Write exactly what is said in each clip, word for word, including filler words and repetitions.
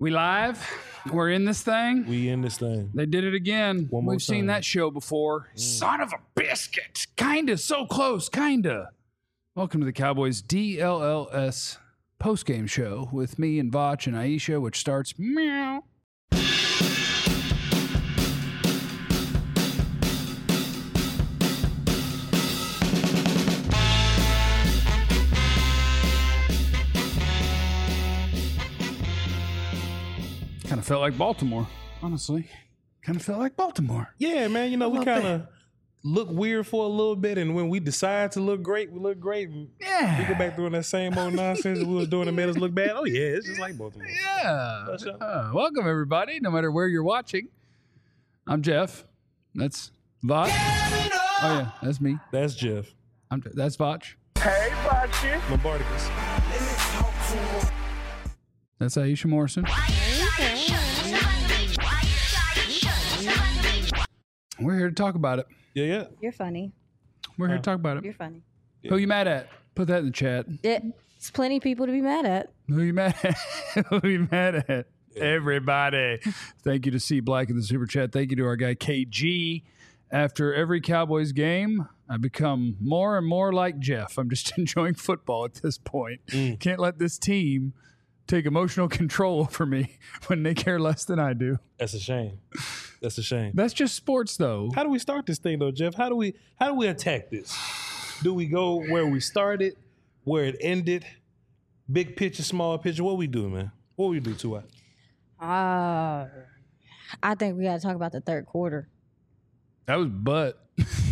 We live. We're in this thing. We in this thing. They did it again. One more We've seen time. that show before. Mm. Son of a biscuit. Kinda. So close. Kinda. Welcome to the Cowboys D L L S postgame show with me and Vach and Aisha, which starts meow. Kind of felt like Baltimore, honestly. Kind of felt like Baltimore. Yeah, man. You know, we kind of look weird for a little bit, and when we decide to look great, we look great. And Yeah. we go back doing that same old nonsense that we was doing that made us look bad. Oh, yeah, it's just like Baltimore. Yeah. What's up? Uh, welcome, everybody, no matter where you're watching. I'm Jeff. That's Vach. Oh, yeah, that's me. That's Jeff. I'm, that's Vach. Hey, Bachi. Lombardicus. That's Aisha Morrison. We're here to talk about it. Yeah, yeah. You're funny. We're here to talk about it. You're funny. Who you mad at? Put that in the chat. It's plenty of people to be mad at. Who you mad at? Who you mad at? Everybody. Thank you to C Black in the super chat. Thank you to our guy K G. After every Cowboys game, I become more and more like Jeff. I'm just enjoying football at this point. Mm. Can't let this team take emotional control over me when they care less than I do. That's a shame. That's a shame. That's just sports, though. How do we start this thing, though, Jeff? How do we how do we attack this? Do we go where we started, where it ended, big picture, small picture? What we do, man? What we do to us? Uh, I think we got to talk about the third quarter. That was butt.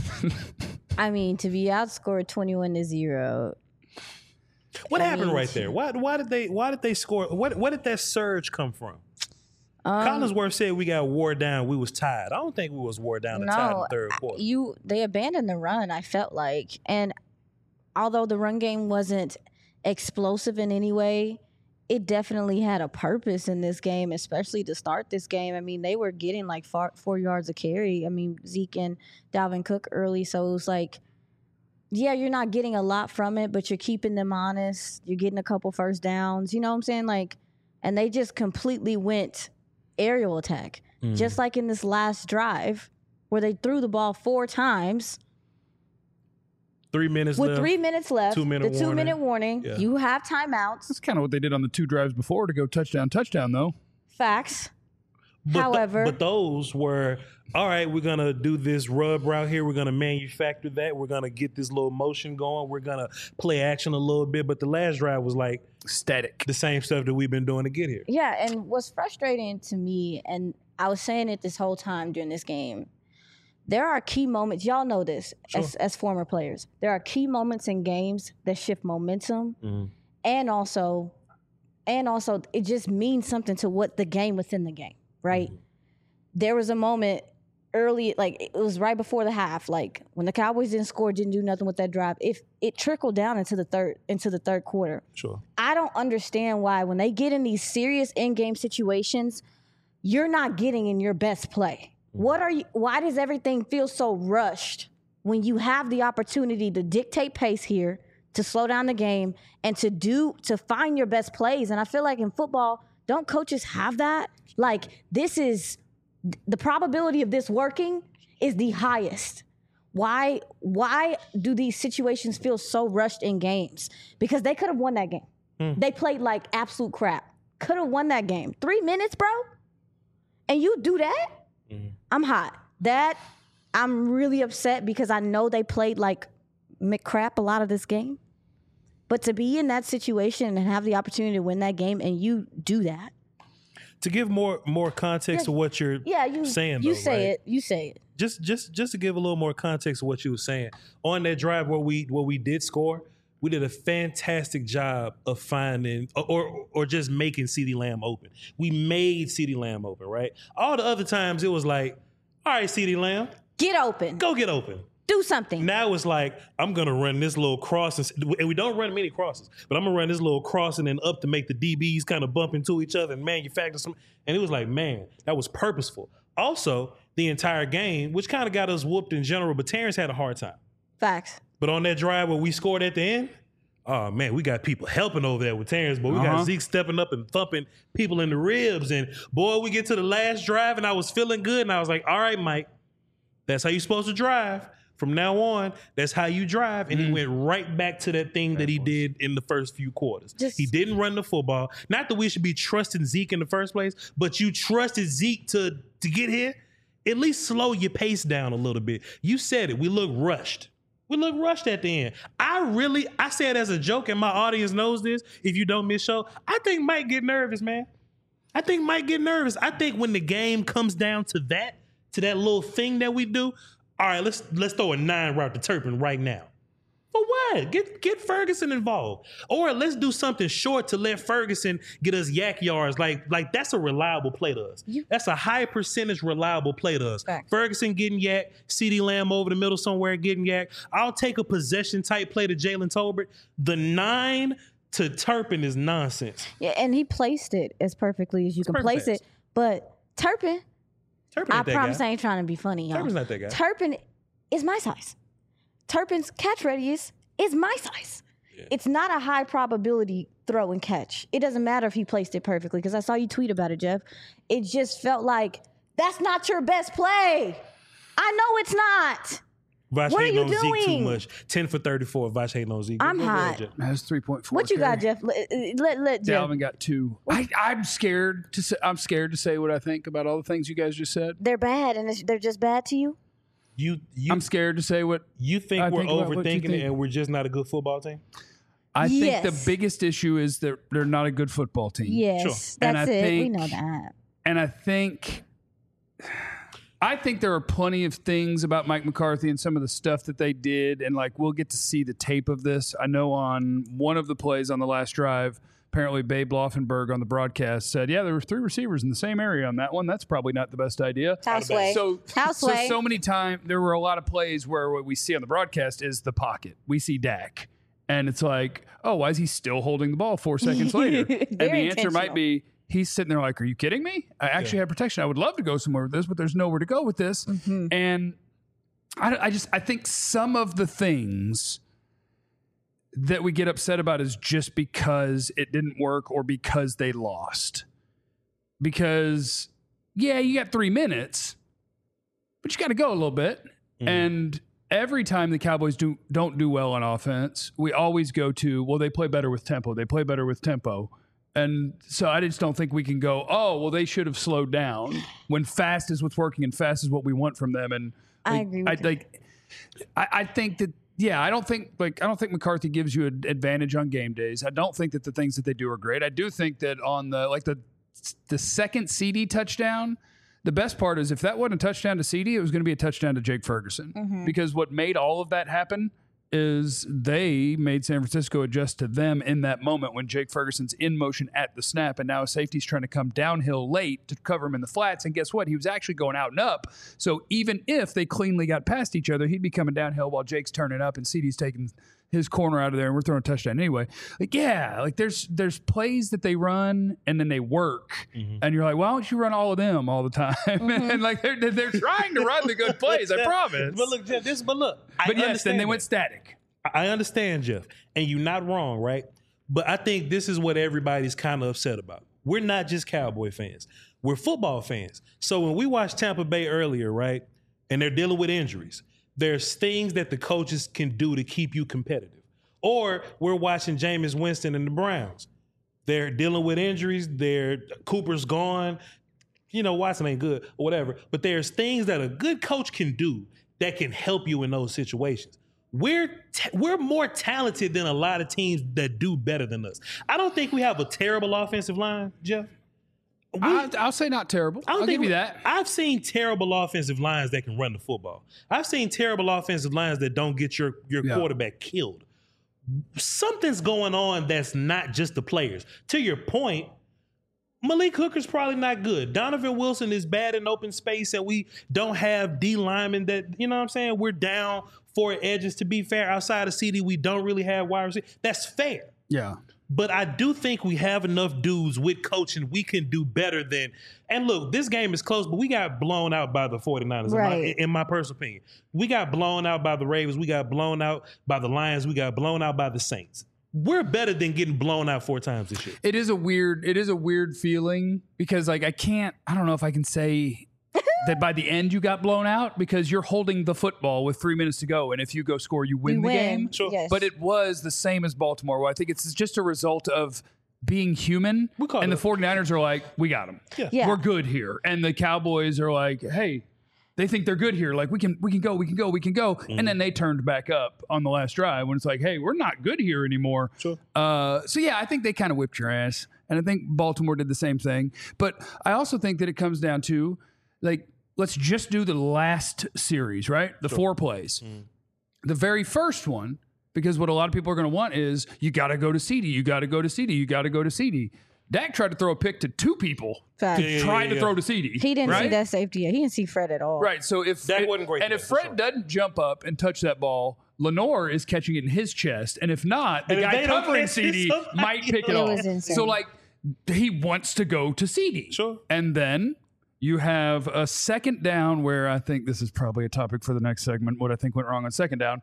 I mean, to be outscored twenty-one to zero. What I happened mean, right there? Why why did they why did they score? What what did that surge come from? Um, Collinsworth said we got wore down. We was tired. I don't think we was wore down and tired in no, the third quarter. you they abandoned the run. I felt like, and although the run game wasn't explosive in any way, it definitely had a purpose in this game, especially to start this game. I mean, they were getting like four, four yards a carry. I mean, Zeke and Dalvin Cook early, so it was like, yeah, you're not getting a lot from it, but you're keeping them honest. You're getting a couple first downs. You know what I'm saying? Like, and they just completely went aerial attack, Mm. just like in this last drive where they threw the ball four times Three minutes with left. three minutes left. Two-minute the two minute warning. warning. Yeah. You have timeouts. That's kind of what they did on the two drives before to go touchdown, touchdown, though. Facts. But th- However- but those were all right. We're gonna do this rub route here. We're gonna manufacture that. We're gonna get this little motion going. We're gonna play action a little bit. But the last drive was like Static. the same stuff that we've been doing to get here. Yeah, and what's frustrating to me, and I was saying it this whole time during this game, there are key moments. Y'all know this as, as former players. There are key moments in games that shift momentum, Mhm. and also, and also, it just means something to what the game within the game, right? Mhm. There was a moment early, like it was right before the half, like when the Cowboys didn't score, didn't do nothing with that drive. If it trickled down into the third into the third quarter. Sure. I don't understand why when they get in these serious in-game situations, you're not getting in your best play. What are you why does everything feel so rushed when you have the opportunity to dictate pace here, to slow down the game, and to do to find your best plays? And I feel like in football, don't coaches have that? Like this is the probability of this working is the highest. Why why do these situations feel so rushed in games? Because they could have won that game. Hmm. They played like absolute crap. Could have won that game. Three minutes, bro? And you do that? Mhm. I'm hot. That, I'm really upset because I know they played like McCrap a lot of this game. But to be in that situation and have the opportunity to win that game and you do that. To give more more context Yeah. to what you're Yeah, you saying, you though, say right? it. You say it. just just just to give a little more context to what you were saying on that drive where we where we did score, we did a fantastic job of finding or or, or just making CeeDee Lamb open. We made CeeDee Lamb open, right? All the other times it was like, all right, CeeDee Lamb, Get open. go get open. Do something. Now it's like, I'm going to run this little cross, and, and we don't run many crosses, but I'm going to run this little cross and then up to make the D Bs kind of bump into each other and manufacture some. And it was like, man, that was purposeful. Also, the entire game, which kind of got us whooped in general, but Terrence had a hard time. Facts. But on that drive where we scored at the end, oh man, we got people helping over there with Terrence, but we Uh-huh. got Zeke stepping up and thumping people in the ribs. And boy, we get to the last drive and I was feeling good. And I was like, all right, Mike, that's how you're supposed to drive. From now on, that's how you drive. And mm. he went right back to that thing that he did in the first few quarters. Just, he didn't run the football. Not that we should be trusting Zeke in the first place, but you trusted Zeke to, to get here. At least slow your pace down a little bit. You said it. We look rushed. We look rushed at the end. I really, I say it as a joke, and my audience knows this. If you don't miss show, I think Mike get nervous, man. I think Mike get nervous. I think when the game comes down to that, to that little thing that we do, all right, let's let's throw a nine route to Turpin right now. For what? Get get Ferguson involved. Or let's do something short to let Ferguson get us yak yards. Like, like that's a reliable play to us. You, that's a high percentage reliable play to us. Fact. Ferguson getting yak, CeeDee Lamb over the middle somewhere getting yak. I'll take a possession type play to Jalen Tolbert. The nine to Turpin is nonsense. Yeah, and he placed it as perfectly as you It's can place pass. it. But Turpin, Turpin I ain't that promise guy. I ain't trying to be funny, y'all. Turpin's not that guy. Turpin is my size. Turpin's catch radius is my size. Yeah. It's not a high probability throw and catch. It doesn't matter if he placed it perfectly, because I saw you tweet about it, Jeff. It just felt like, that's not your best play. I know it's not. Vash what are hating you on doing? Zeke too much. ten for thirty-four. Vash hating on Zeke. I'm Go hot. ahead, That's three point four. What you carry. got, Jeff? Let, let, let Jeff. Dalvin got two. I, I'm scared to say. I'm scared to say what I think about all the things you guys just said. They're bad, and it's, they're just bad to you? You, you, I'm scared to say what you think I we're think about what you overthinking think. it and we're just not a good football team? I Yes. think the biggest issue is that they're not a good football team. Yes, Sure. that's And I it. We think- know that. And I think I think there are plenty of things about Mike McCarthy and some of the stuff that they did, and like we'll get to see the tape of this. I know on one of the plays on the last drive, apparently Babe Laufenberg on the broadcast said, yeah, there were three receivers in the same area on that one. That's probably not the best idea. Houseway. So, Houseway. so, so many times there were a lot of plays where what we see on the broadcast is the pocket. We see Dak. And it's like, oh, why is he still holding the ball four seconds later? And the Very answer might intentional. be, he's sitting there like, are you kidding me? I actually Yeah. have protection. I would love to go somewhere with this, but there's nowhere to go with this. Mm-hmm. And I, I just, I think some of the things that we get upset about is just because it didn't work or because they lost. Because, yeah, you got three minutes, but you got to go a little bit. Mhm. And every time the Cowboys do, don't do well on offense, we always go to, well, they play better with tempo. They play better with tempo. And so I just don't think we can go, oh, well, they should have slowed down when fast is what's working and fast is what we want from them. And I like, agree with I, that. like, I, I think that, yeah, I don't think like I don't think McCarthy gives you an advantage on game days. I don't think that the things that they do are great. I do think that on the like the the second C D touchdown, the best part is if that wasn't a touchdown to C D, it was going to be a touchdown to Jake Ferguson. Mm-hmm. Because what made all of that happen is they made San Francisco adjust to them in that moment when Jake Ferguson's in motion at the snap, and now a safety's trying to come downhill late to cover him in the flats. And guess what? He was actually going out and up. So even if they cleanly got past each other, he'd be coming downhill while Jake's turning up and C D's taking his corner out of there, and we're throwing a touchdown anyway. Like, yeah, like there's there's plays that they run and then they work, Mhm. and you're like, why don't you run all of them all the time? Mm-hmm. And like they're they're trying to run the good plays, I promise. But look, Jeff, this, but look, I But yes, then understand they went that. static. I understand, Jeff, and you're not wrong, right? But I think this is what everybody's kind of upset about. We're not just Cowboy fans. We're football fans. So when we watched Tampa Bay earlier, right, and they're dealing with injuries, there's things that the coaches can do to keep you competitive. Or we're watching Jameis Winston and the Browns. They're dealing with injuries. They're Cooper's gone. You know, Watson ain't good or whatever. But there's things that a good coach can do that can help you in those situations. We're t- we're more talented than a lot of teams that do better than us. I don't think we have a terrible offensive line, Jeff. We- I, I'll say not terrible. I don't I'll think give you we- that. I've seen terrible offensive lines that can run the football. I've seen terrible offensive lines that don't get your, your Yeah. quarterback killed. Something's going on that's not just the players. To your point, Malik Hooker's probably not good. Donovan Wilson is bad in open space, and we don't have D linemen that, you know what I'm saying? We're down four edges. To be fair, outside of C D, we don't really have wide receivers. That's fair. Yeah. But I do think we have enough dudes with coaching. We can do better than. And look, this game is close, but we got blown out by the 49ers, in, my, Right. in my personal opinion. We got blown out by the Ravens. We got blown out by the Lions. We got blown out by the Saints. we're better than getting blown out four times this year. It is a weird, it is a weird feeling because like I can't, I don't know if I can say that by the end you got blown out because you're holding the football with three minutes to go. And if you go score, you win You the win. game. Sure. Yes. But it was the same as Baltimore, where I think it's just a result of being human. We caught And it. the 49ers are like, we got them. Yeah. Yeah. We're good here. And the Cowboys are like, hey, they think they're good here. Like we can, we can go, we can go, we can go. Mm-hmm. And then they turned back up on the last drive when it's like, hey, we're not good here anymore. Sure. Uh, so yeah, I think they kind of whipped your ass. And I think Baltimore did the same thing. But I also think that it comes down to like, let's just do the last series, right? The four plays. Mm. The very first one, because what a lot of people are going to want is you got to go to C D, you got to go to C D, you got to go to C D. Dak tried to throw a pick to two people, Fact. Yeah, yeah, tried yeah, to yeah. throw to C D. He didn't right? see that safety yet. He didn't see Fred at all. Right. So if Dak it- wasn't great and for if that, for Fred sure. doesn't jump up and touch that ball, Lenore is catching it in his chest, and if not, the And if guy they don't covering catch it, C D somebody might pick it It off. was insane. So like he wants to go to C D. Sure. And then you have a second down where I think this is probably a topic for the next segment. What I think went wrong on second down.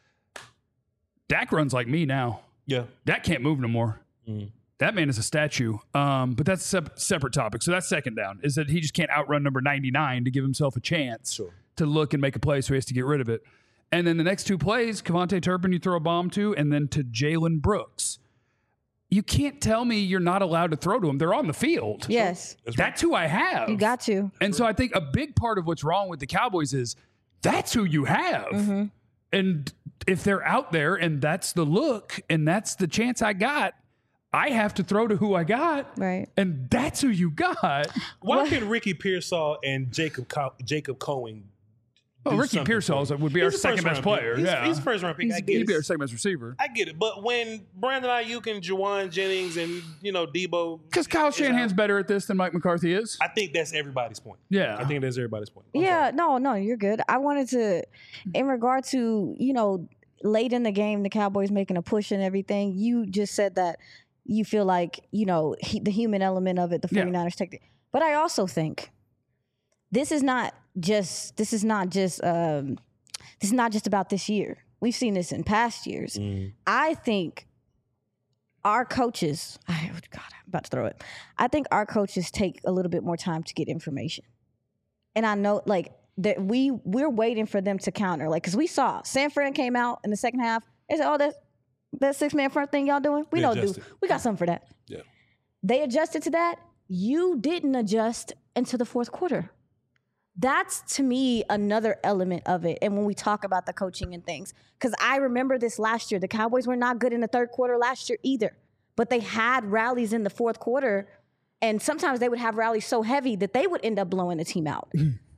Dak runs like me now. Yeah. Dak can't move no more. Mm. That man is a statue. Um, but that's a sep- separate topic. So that's second down, is that he just can't outrun number ninety-nine to give himself a chance Sure. to look and make a play, so he has to get rid of it. And then the next two plays, Kevontae Turpin you throw a bomb to, and then to Jalen Brooks. You can't tell me you're not allowed to throw to him. They're on the field. Yes. That's right. That's who I have. You got to. And so I think a big part of what's wrong with the Cowboys is that's who you have. Mm-hmm. And if they're out there and that's the look and that's the chance I got, I have to throw to who I got. Right. And that's who you got. Why What? can Ricky Pearsall and Jacob Co- Jacob Cohen? Well, do Ricky something Pearsall for you? would be our He's a second best first-round pick. player. He's, yeah. he's a first round pick. I get He'd it. be our second best receiver. I get it. But when Brandon Ayuk and Juwan Jennings and, you know, Debo. Because Kyle is Shanahan's out, better at this than Mike McCarthy is. I think that's everybody's point. Yeah. I think that's everybody's point. I'm Yeah, sorry. no, no, you're good. I wanted to, in regard to, you know, late in the game, the Cowboys making a push and everything, you just said that you feel like, you know, he, the human element of it, the Yeah. 49ers take it. But I also think this is not just, this is not just, um, this is not just about this year. We've seen this in past years. Mm. I think our coaches, I, God, I'm about to throw it. I think our coaches take a little bit more time to get information. And I know, like, that we, we're waiting for them to counter. Like, because we saw San Fran came out in the second half. They said, oh, that, that six-man front thing y'all doing? We They know, do. adjusted. We got something for that. Yeah. They adjusted to that. You didn't adjust into the fourth quarter. That's, to me, another element of it. And when we talk about the coaching and things, because I remember this last year. The Cowboys were not good in the third quarter last year either, but they had rallies in the fourth quarter, and sometimes they would have rallies so heavy that they would end up blowing the team out.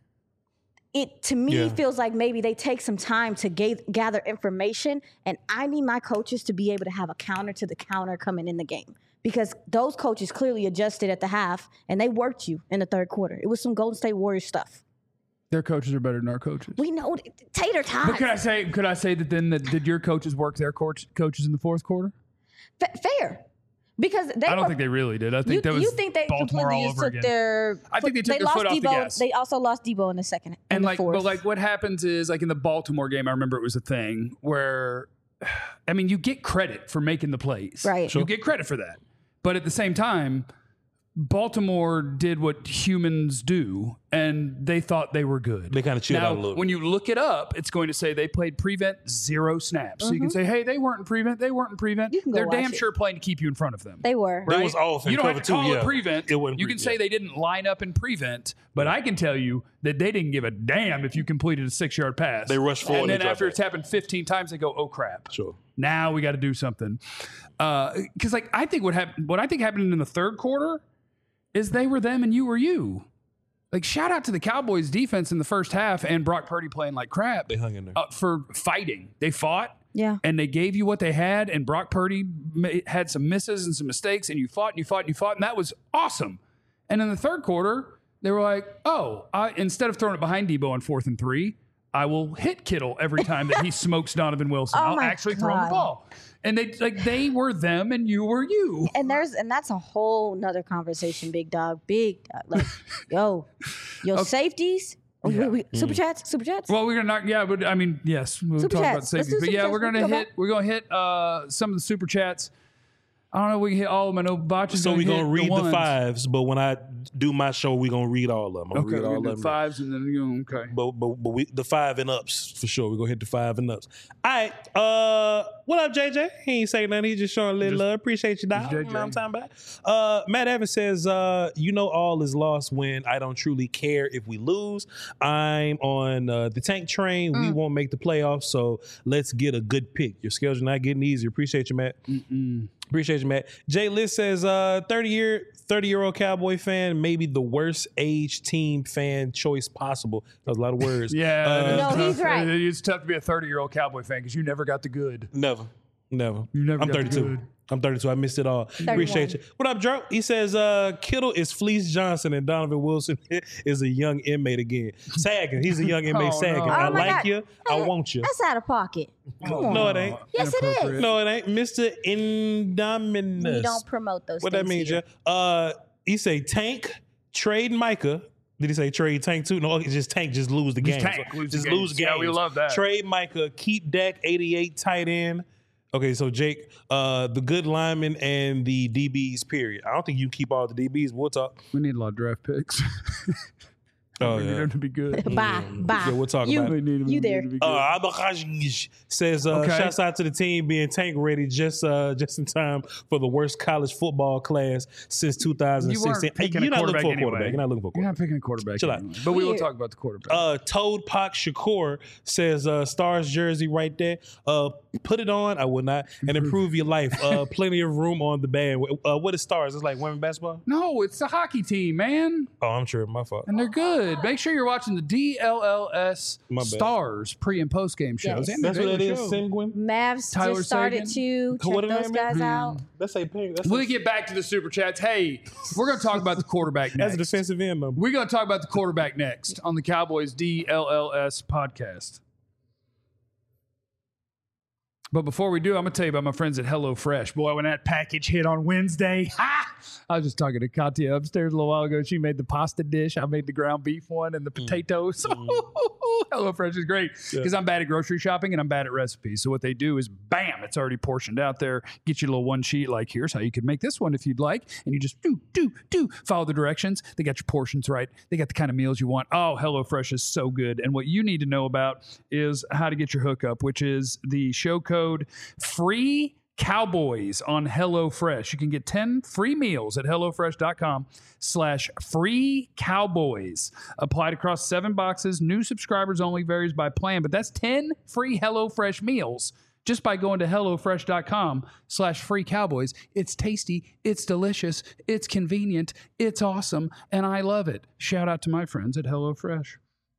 It, to me, Yeah. feels like maybe they take some time to ga- gather information, and I need my coaches to be able to have a counter to the counter coming in the game, because those coaches clearly adjusted at the half, and they worked you in the third quarter. It was some Golden State Warriors stuff. Their coaches are better than our coaches. We know th- tater tots. But could I say, could I say that then that did your coaches work their coach, coaches in the fourth quarter? Fa- fair, because they I don't were, think they really did. I think you, that was you think they Baltimore completely all just over took again. their. I think they took their lost foot off the Debo. gas. They also lost Debo in the second and, and the like, fourth. but like, what happens is like in the Baltimore game, I remember it was a thing where, I mean, you get credit for making the plays, Right. You get credit for that, but at the same time, Baltimore did what humans do, and they thought they were good. They kinda chilled now, out a little bit. when you look it up, it's going to say they played prevent zero snaps. So you can say, hey, they weren't in prevent. They weren't in prevent. Mm-hmm. You can go They're watch damn it. sure playing to keep you in front of them. They were. They was off in You don't cover have to two, call yeah. it prevent. It wasn't you pre- can say yeah. they didn't line up in prevent, but I can tell you that they didn't give a damn if you completed a six-yard pass. They rushed forward and and then they after dropped it's happened fifteen times, they go, "Oh crap!" Sure. Now we got to do something. Because like I think what happened, what I think happened in the third quarter, is they were them and you were you. Like shout out to the Cowboys defense in the first half and Brock Purdy playing like crap. They hung in there. uh, for fighting. They fought. Yeah. And they gave you what they had, and Brock Purdy ma- had some misses and some mistakes, and you fought and you fought and you fought, and that was awesome. And in the third quarter, they were like, oh, I, instead of throwing it behind Debo on fourth and three, I will hit Kittle every time that he smokes Donovan Wilson. Oh I'll my actually throw him the God. ball. And they like they were them and you were you. And there's and that's a whole nother conversation, big dog, big dog. Like, yo, your safeties Oh, Yeah. we, we, super chats, super chats. Well, we're gonna knock. Yeah, but I mean, yes, we'll Super talk about chats. Let's safeties. do But super yeah, chats. we're We can gonna go hit. back. We're gonna hit uh, some of the super chats. I don't know if we can hit all of them. I know Botch is So we're hit gonna read the, ones. fives, but when I do my show, we're gonna read all of them. I'm Okay, gonna read we're all gonna of do them. fives and then you know, okay. But but but we the five and ups for sure. We're gonna hit the five and ups. All right. Uh what up, J J? He ain't saying nothing. He just showing a little Just- love. Appreciate you, dog. J You J. know what I'm talking about? Uh Matt Evans says, uh, you know all is lost when I don't truly care if we lose. I'm on uh, the tank train. We won't make the playoffs, so let's get a good pick. Your schedule's not getting easier. Appreciate you, Matt. Mm-mm. Appreciate you, Matt. Jay Liz says, uh, thirty year, thirty year old Cowboy fan, maybe the worst age team fan choice possible. That was a lot of words. Yeah, Uh, it is No, tough. he's right. It- It's tough to be a thirty-year-old Cowboy fan because you never got the good. Never. Never. You never I'm got the thirty-two. good. I'm thirty-two. I missed it all. Appreciate you. What up, Joe? He says, uh, Kittle is Fleece Johnson and Donovan Wilson is a young inmate again. Sagging. He's a young inmate Oh, sagging. no. I Oh, my like God. you. I want you. That's out of pocket. Come on. No, it ain't. Yes, it is. Inappropriate. No, it ain't. Mister Indominus. We don't promote those What things that means, here. yeah? Uh, he say Tank, trade Micah. Did he say trade Tank too? No, it's just Tank, just lose the game. Tank, lose the just games. lose games. Yeah, we love that. Trade Micah, keep Dak eighty-eight tight end. Okay, so Jake, uh, the good lineman and the D Bs, period. I don't think you can keep all the D Bs. We'll talk. We need a lot of draft picks. Oh, we need yeah. them to be good. Bye, bye. Yeah, we'll talk you, about We it. need them You to there. be good. Uh, Abakaj says, uh, Okay. shouts out to the team being tank ready just uh, just in time for the worst college football class since two thousand sixteen. You weren't Hey, picking you're a not looking for a quarterback quarterback. anyway. You're not looking for a You're quarterback. not picking a quarterback. Chill out. anyway. But we will Weird. talk about the quarterback. Uh, Toad Pak Shakur says, uh, Stars jersey right there. Uh, put it on. I will not. And improve your life. Uh, plenty of room on the band. Uh, what is Stars? It's like women basketball? no, it's the hockey team, man. Oh, I'm sure. My fault. And they're good. Make sure you're watching the D L L S My bad. Stars pre and post game shows. Yes. And the That's what daily it is. show. Sanguine? Mavs Tyler just started Sagan. to check What are those they, man? guys out. That's a pink. That's, We'll a, get back to the super chats. Hey, we're going to talk about the quarterback that's next. a defensive end number. We're going to talk about the quarterback next on the Cowboys D L L S podcast. But before we do, I'm going to tell you about my friends at HelloFresh. Boy, when that package hit on Wednesday, ha! I was just talking to Katya upstairs a little while ago. She made the pasta dish. I made the ground beef one and the potatoes. HelloFresh is great because I'm bad at grocery shopping and I'm bad at recipes. So what they do is, bam, it's already portioned out there. Get you a little one sheet like, here's how you could make this one if you'd like. And you just do, do, do. Follow the directions. They got your portions right. They got the kind of meals you want. Oh, HelloFresh is so good. And what you need to know about is how to get your hookup, which is the show code FREE Cowboys on HelloFresh. You can get ten free meals at HelloFresh.com slash free cowboys. Applied across seven boxes. New subscribers only, varies by plan, but that's ten free HelloFresh meals just by going to HelloFresh.com slash free cowboys. It's tasty. It's delicious. It's convenient. It's awesome. And I love it. Shout out to my friends at HelloFresh.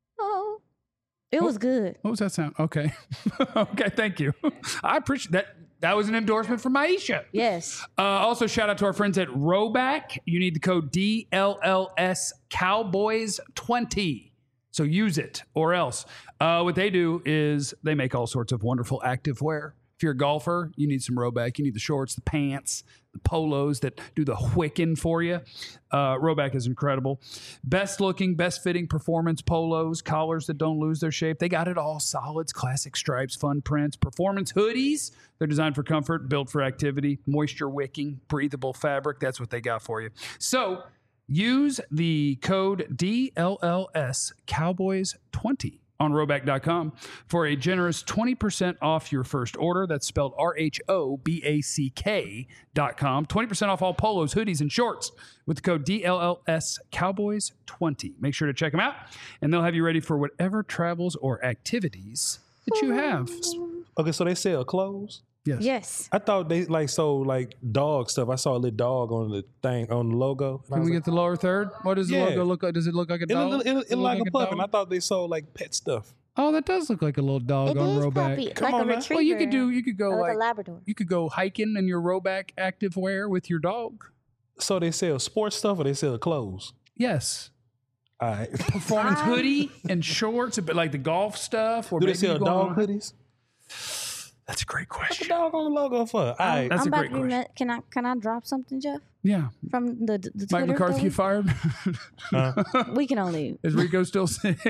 Oh, it was good. What was that sound? Okay. Okay, thank you. I appreciate that. That was an endorsement from Maisha. Yes. Uh, also, shout out to our friends at Roback. You need the code D L L S Cowboys twenty. So use it or else. Uh, what they do is they make all sorts of wonderful active wear. If you're a golfer, you need some Roback. You need the shorts, the pants, the polos that do the whicking for you. Uh, Roback is incredible. Best looking, best fitting performance polos, collars that don't lose their shape. They got it all. Solids, classic stripes, fun prints, performance hoodies. They're designed for comfort, built for activity, moisture wicking, breathable fabric. That's what they got for you. So use the code D L L S Cowboys twenty on Roback dot com for a generous twenty percent off your first order. That's spelled R H O B A C K dot com. twenty percent off all polos, hoodies, and shorts with the code D L L S Cowboys twenty. Make sure to check them out, and they'll have you ready for whatever travels or activities that you have. Okay, so they sell clothes? Yes. Yes. I thought they like sold like dog stuff. I saw a little dog on the thing, on the logo. Can we get the lower third? What does the Yeah. logo look like? Does it look like a It dog? look, it, look- it look like a pup, dog? and I thought they sold like pet stuff. Oh, that does look like a little dog It on is Roback. puppy, Come like on a now. retriever. Well, you could do. You could go or like like a Labrador. you could go hiking in your Roback active wear with your dog. So they sell sports stuff or they sell clothes? Yes, All right. performance Fine. hoodie and shorts, but like the golf stuff. Or Do they maybe sell you go dog on- hoodies? That's a great What's the question. dog on the logo for? All right. That's I'm a about great to be question. met- Can I can I drop something, Jeff? Yeah, From the the Mike Twitter McCarthy thing? fired. We can only Is Rico still sick?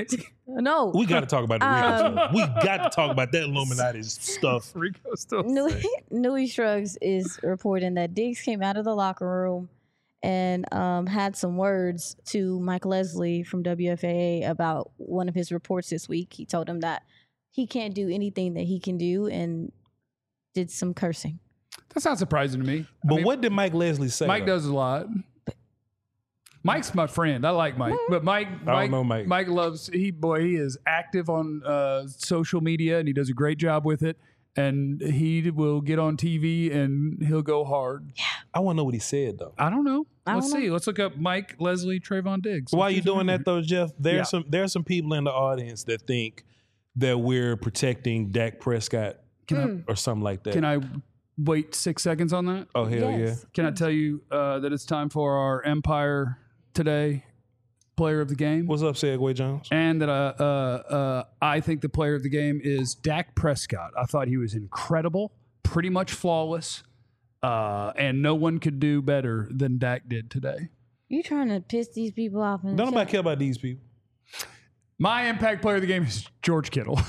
No. We got to talk about the Rico Um, stuff. We got to talk about that Illuminati stuff. Rico still. Nui, Nui Shrugs is reporting that Diggs came out of the locker room and um, had some words to Mike Leslie from W F A A about one of his reports this week. He told him that he can't do anything that he can do and did some cursing. That's not surprising to me. But I mean, what did Mike Leslie say? Mike though? does a lot. Mike's my friend. I like Mike, but Mike, I don't Mike, know Mike. Mike loves he boy. He is active on uh, social media and he does a great job with it. And he will get on T V and he'll go hard. I want to know what he said though. I don't know. I Let's don't see. know. Let's look up Mike Leslie Trayvon Diggs. Why are you doing that though, Jeff? There's Yeah. some there's some people in the audience that think that we're protecting Dak Prescott Can or something like that. I, can I wait six seconds on that? oh hell Yes. Can I tell you uh, that it's time for our Empire Today Player of the Game? yeah. What's up, Segway Jones? And that uh, uh, uh, I think the player of the game is Dak Prescott. I thought he was incredible, pretty much flawless, uh, and no one could do better than Dak did today. You trying to piss these people off? In the Don't nobody chat. care about these people. My impact player of the game is George Kittle.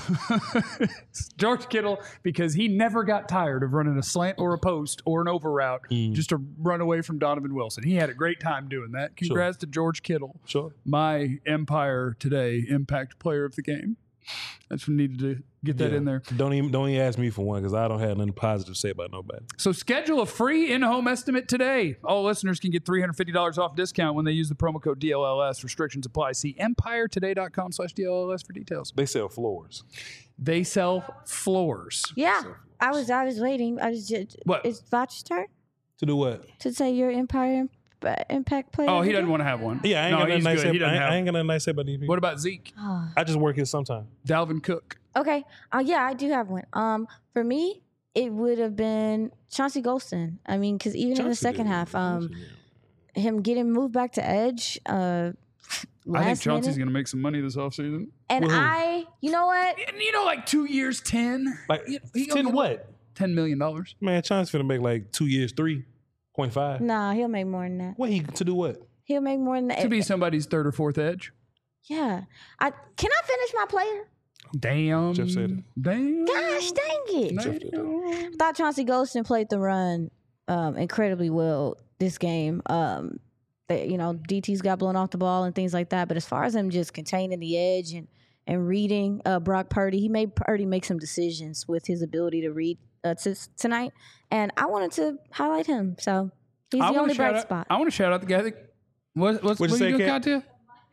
George Kittle, because he never got tired of running a slant or a post or an over route just to run away from Donovan Wilson. He had a great time doing that. Congrats to George Kittle. Sure. My Empire Today impact player of the game. I just needed to get that Yeah. in there. Don't even don't even ask me for one because I don't have nothing positive to say about nobody. So schedule a free in-home estimate today. All listeners can get three hundred fifty dollars off discount when they use the promo code D L L S. Restrictions apply. See empire today dot com slash D L L S for details. They sell floors. They sell floors. Yeah, I was. I was waiting. I was just. What? It's Vach's turn To do what? to say your Empire Imp- uh, Impact player. Oh, of he the doesn't game? want to have one. Yeah, I ain't no, got nothing he's nice. good. Say, He doesn't I, have I ain't got nothing nice to say about these people. What about Zeke? I just work here sometime. Dalvin Cook. Okay. Uh, yeah, I do have one. Um, for me, it would have been Chauncey Golston. I mean, because even in the Chauncey second did. half, um, Chauncey did. him getting moved back to edge. Uh, I think last Chauncey's minute. going to make some money this offseason. And With who? I, you know what? And you know, like two years, ten? Like He- he gonna ten get what? ten million dollars. Man, Chauncey's finna make like two years, three point five. Nah, he'll make more than that. What he to do what? He'll make more than that. To be somebody's third or fourth edge. Yeah. I can I finish my player? Damn. Jeff said it. Damn. Gosh, dang it! Jeff did that. I thought Chauncey Golston played the run um, incredibly well this game. Um, they, you know, D T's got blown off the ball and things like that. But as far as him just containing the edge and and reading uh, Brock Purdy, he made Purdy make some decisions with his ability to read uh, t- tonight. And I wanted to highlight him. So he's I the wanna only shout bright out- spot. I want to shout out the guy that. What, what's, What'd what you are say, you doing, Kat? Katya?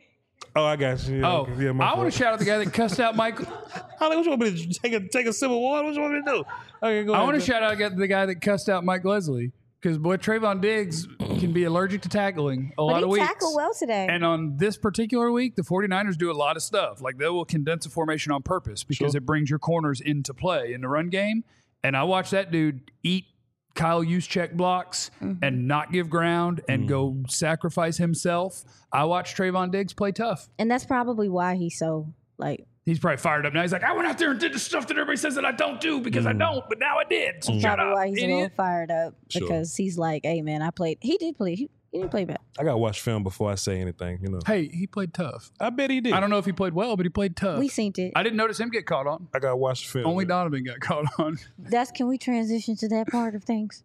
Oh, I got you. Yeah, Oh, yeah, my I want fault. to shout out the guy that cussed out Mike. Holly, what you want me to take a take a sip of water? What you want me to do? Okay, go I ahead. want to Jeff. shout out the guy that cussed out Mike Leslie because boy, Trayvon Diggs can be allergic to tackling a lot But of he weeks. tackled well today. And on this particular week, the 49ers do a lot of stuff. Like they will condense a formation on purpose because Sure. it brings your corners into play in the run game. And I watched that dude eat Kyle Juszczyk blocks Mm-hmm. and not give ground and Mm. go sacrifice himself. I watched Trayvon Diggs play tough. and that's probably why he's so like He's probably fired up now. He's like, I went out there and did the stuff that everybody says that I don't do because I don't, but now I did. So shut probably up, why he's a little idiot. fired up Sure. because he's like, hey man, I played. He did play. He, he didn't play bad. I got to watch film before I say anything. You know. Hey, he played tough. I bet he did. I don't know if he played well, but he played tough. We seen it. I didn't notice him get caught on. I got to watch the film. Only man. Donovan got caught on. That's can we transition to that part of things?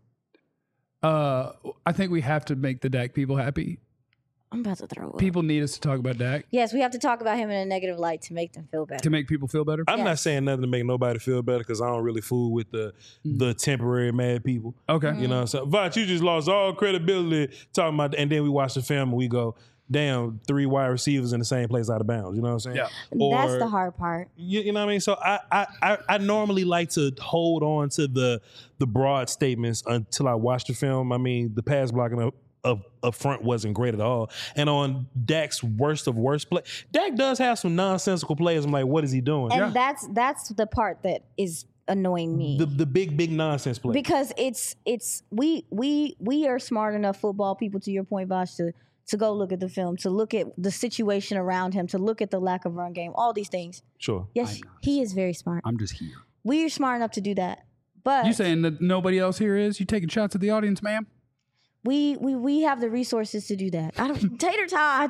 Uh, I think we have to make the Dak people happy. I'm about to throw up. People need us to talk about Dak Yes, we have to talk about him in a negative light to make them feel better. to make people feel better. I'm not Yes. saying nothing to make nobody feel better because I don't really fool with the Mm. the temporary mad people. Okay. You know what I'm saying? Vach, you just lost all credibility talking about, and then we watch the film and we go, damn, three wide receivers in the same place out of bounds. You know what I'm saying? Yeah. That's Or- the hard part. You, you know what I mean? So I, I I I normally like to hold on to the the broad statements until I watch the film. I mean, the pass blocking up up, up front wasn't great at all. And on Dak's worst of worst play, Dak does have some nonsensical plays. I'm like, what is he doing? And Yeah. that's that's the part that is annoying me. The the big big nonsense play. because it's it's we we we are smart enough football people, to your point, Bosh, to to go look at the film, to look at the situation around him, to look at the lack of run game, all these things. Sure. Yes, he is very smart. I'm just here. We are smart enough to do that. But You saying that nobody else here is? You taking shots at the audience, ma'am? we we we have the resources to do that. I don't tater tots.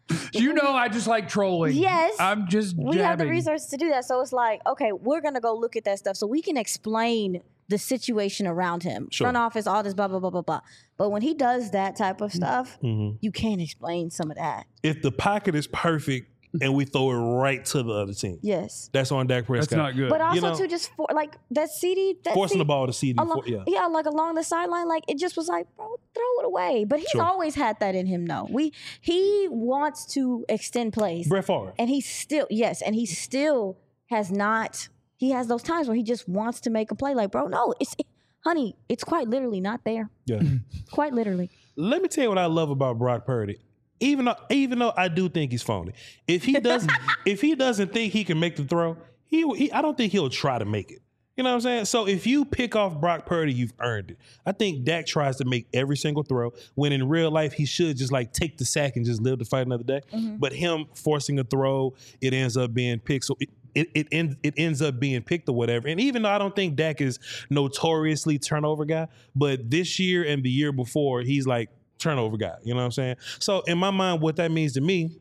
You know, I just like trolling. Yes. I'm just We have the jabbing. resources to do that. So it's like, okay, we're going to go look at that stuff so we can explain the situation around him. Sure. Front office, all this, blah, blah, blah, blah, blah. But when he does that type of stuff, Mhm. you can't explain some of that. If the pocket is perfect and we throw it right to the other team, Yes. that's on Dak Prescott. That's not good. But also, You know- too, just for, like that C D. That Forcing C D the ball to C D. Along, For, yeah. yeah, like along the sideline, like it just was like, bro, throw it away. But he's Sure. always had that in him, though. We he wants to extend plays, Brett Favre. and he still yes, and he still has not. He has those times where he just wants to make a play. Like, bro, no, it's honey, it's quite literally not there. Yeah. Quite literally. Let me tell you what I love about Brock Purdy. Even though, even though I do think he's phony, if he doesn't, if he doesn't think he can make the throw, he, he, I don't think he'll try to make it. You know what I'm saying? So if you pick off Brock Purdy, you've earned it. I think Dak tries to make every single throw when in real life he should just like take the sack and just live to fight another day. Mm-hmm. But him forcing a throw, it ends up being picked. So it, it it ends it ends up being picked or whatever. And even though I don't think Dak is notoriously turnover guy, but this year and the year before, he's like turnover guy. You know what I'm saying? So in my mind, what that means to me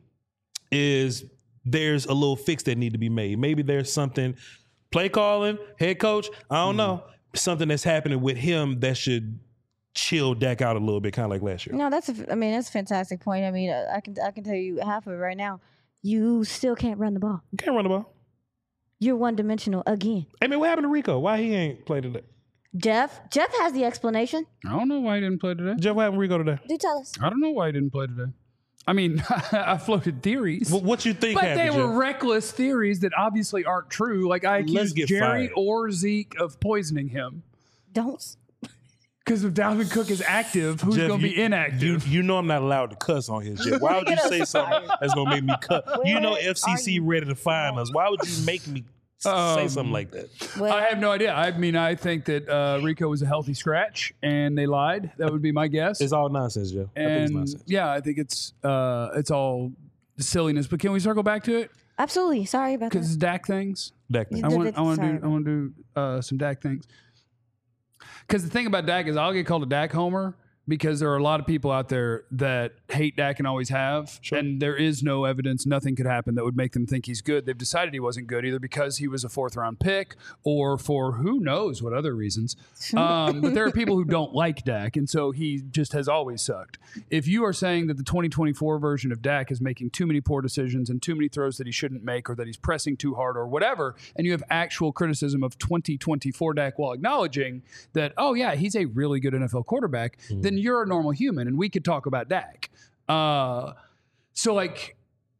is there's a little fix that need to be made. Maybe there's something, play calling, head coach, I don't know, something that's happening with him that should chill Dak out a little bit, kind of like last year. No, that's a, I mean, that's a fantastic point. I mean, uh, I can I can tell you half of it right now. You still can't run the ball. You can't run the ball. You're one dimensional again. I mean, what happened to Rico? Why he ain't played today? Jeff, Jeff has the explanation. I don't know why he didn't play today. Jeff, what happened to Rico today? Do tell us. I don't know why he didn't play today. I mean, I floated theories. What, what you think But happened, they were Jeff? reckless theories that obviously aren't true. Like I Let's accused get Jerry fired. or Zeke of poisoning him. Don't. Because if Dalvin Cook is active, who's Jeff, going to you- be inactive? You, you know I'm not allowed to cuss on here, Jeff. Why would you say something that's gonna make me cut? You know F C C ready to fine us. Why would you make me s- say Um, something like that? Well, I have no idea. I mean, I think that uh, Rico was a healthy scratch, and they lied. That would be my guess. It's all nonsense, Jeff. I think it's and nonsense. yeah, I think it's uh, it's all silliness. But can we circle back to it? absolutely. Sorry about Because that. it's Dak things. Dak, You I did want. it. I want to Sorry. do. I want to do uh, some Dak things. Because the thing about Dak is, I'll get called a Dak homer because there are a lot of people out there that hate Dak and always have, Sure. and there is no evidence. Nothing could happen that would make them think he's good. They've decided he wasn't good either because he was a fourth round pick or for who knows what other reasons. Um, but there are people who don't like Dak, and so he just has always sucked. If you are saying that the twenty twenty-four version of Dak is making too many poor decisions and too many throws that he shouldn't make, or that he's pressing too hard, or whatever, and you have actual criticism of twenty twenty-four Dak while acknowledging that, oh yeah, he's a really good N F L quarterback, then you're a normal human, and we could talk about Dak. Uh, so like,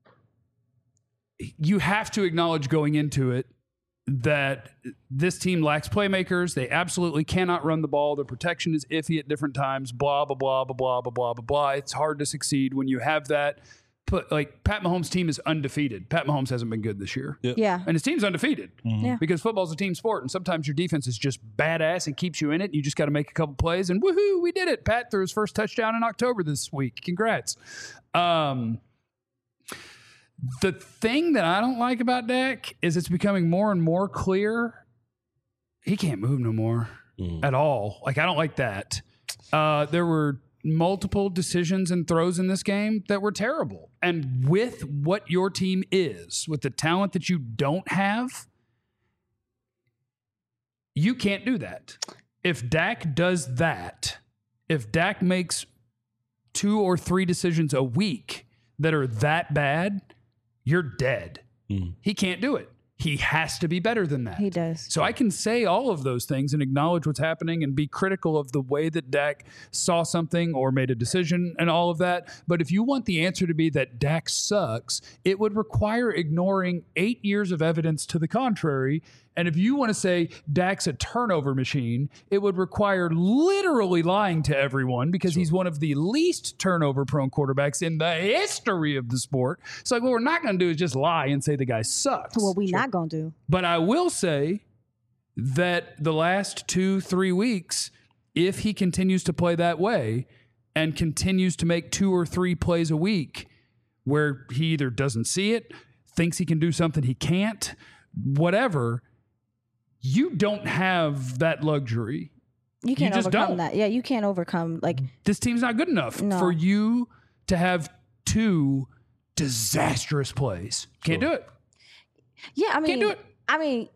you have to acknowledge going into it that this team lacks playmakers. They absolutely cannot run the ball. Their protection is iffy at different times. Blah, blah, blah, blah, blah, blah, blah, blah, blah. It's hard to succeed when you have that. But like Pat Mahomes' team is undefeated. Pat Mahomes hasn't been good this year. Yeah. And his team's undefeated Yeah. because football's a team sport. And sometimes your defense is just badass and keeps you in it. You just got to make a couple plays and woohoo, we did it. Pat threw his first touchdown in October this week. Congrats. Um, the thing that I don't like about Dak is it's becoming more and more clear he can't move no more at all. Like, I don't like that. Uh, there were multiple decisions and throws in this game that were terrible. And with what your team is, with the talent that you don't have, you can't do that. If Dak does that, if Dak makes two or three decisions a week that are that bad, you're dead. Mm. He can't do it. He has to be better than that. He does. So I can say all of those things and acknowledge what's happening and be critical of the way that Dak saw something or made a decision and all of that. But if you want the answer to be that Dak sucks, it would require ignoring eight years of evidence to the contrary. And if you want to say Dak's a turnover machine, it would require literally lying to everyone because he's one of the least turnover prone quarterbacks in the history of the sport. So like, what we're not going to do is just lie and say the guy sucks. What we not gonna do? But I will say that the last two, three weeks, if he continues to play that way and continues to make two or three plays a week where he either doesn't see it, thinks he can do something he can't, whatever, you don't have that luxury. You can't just overcome don't. that. Yeah, you can't overcome like This team's not good enough No. for you to have two disastrous plays. Can't Sure. do it. Yeah, I mean, Can't do it. I mean,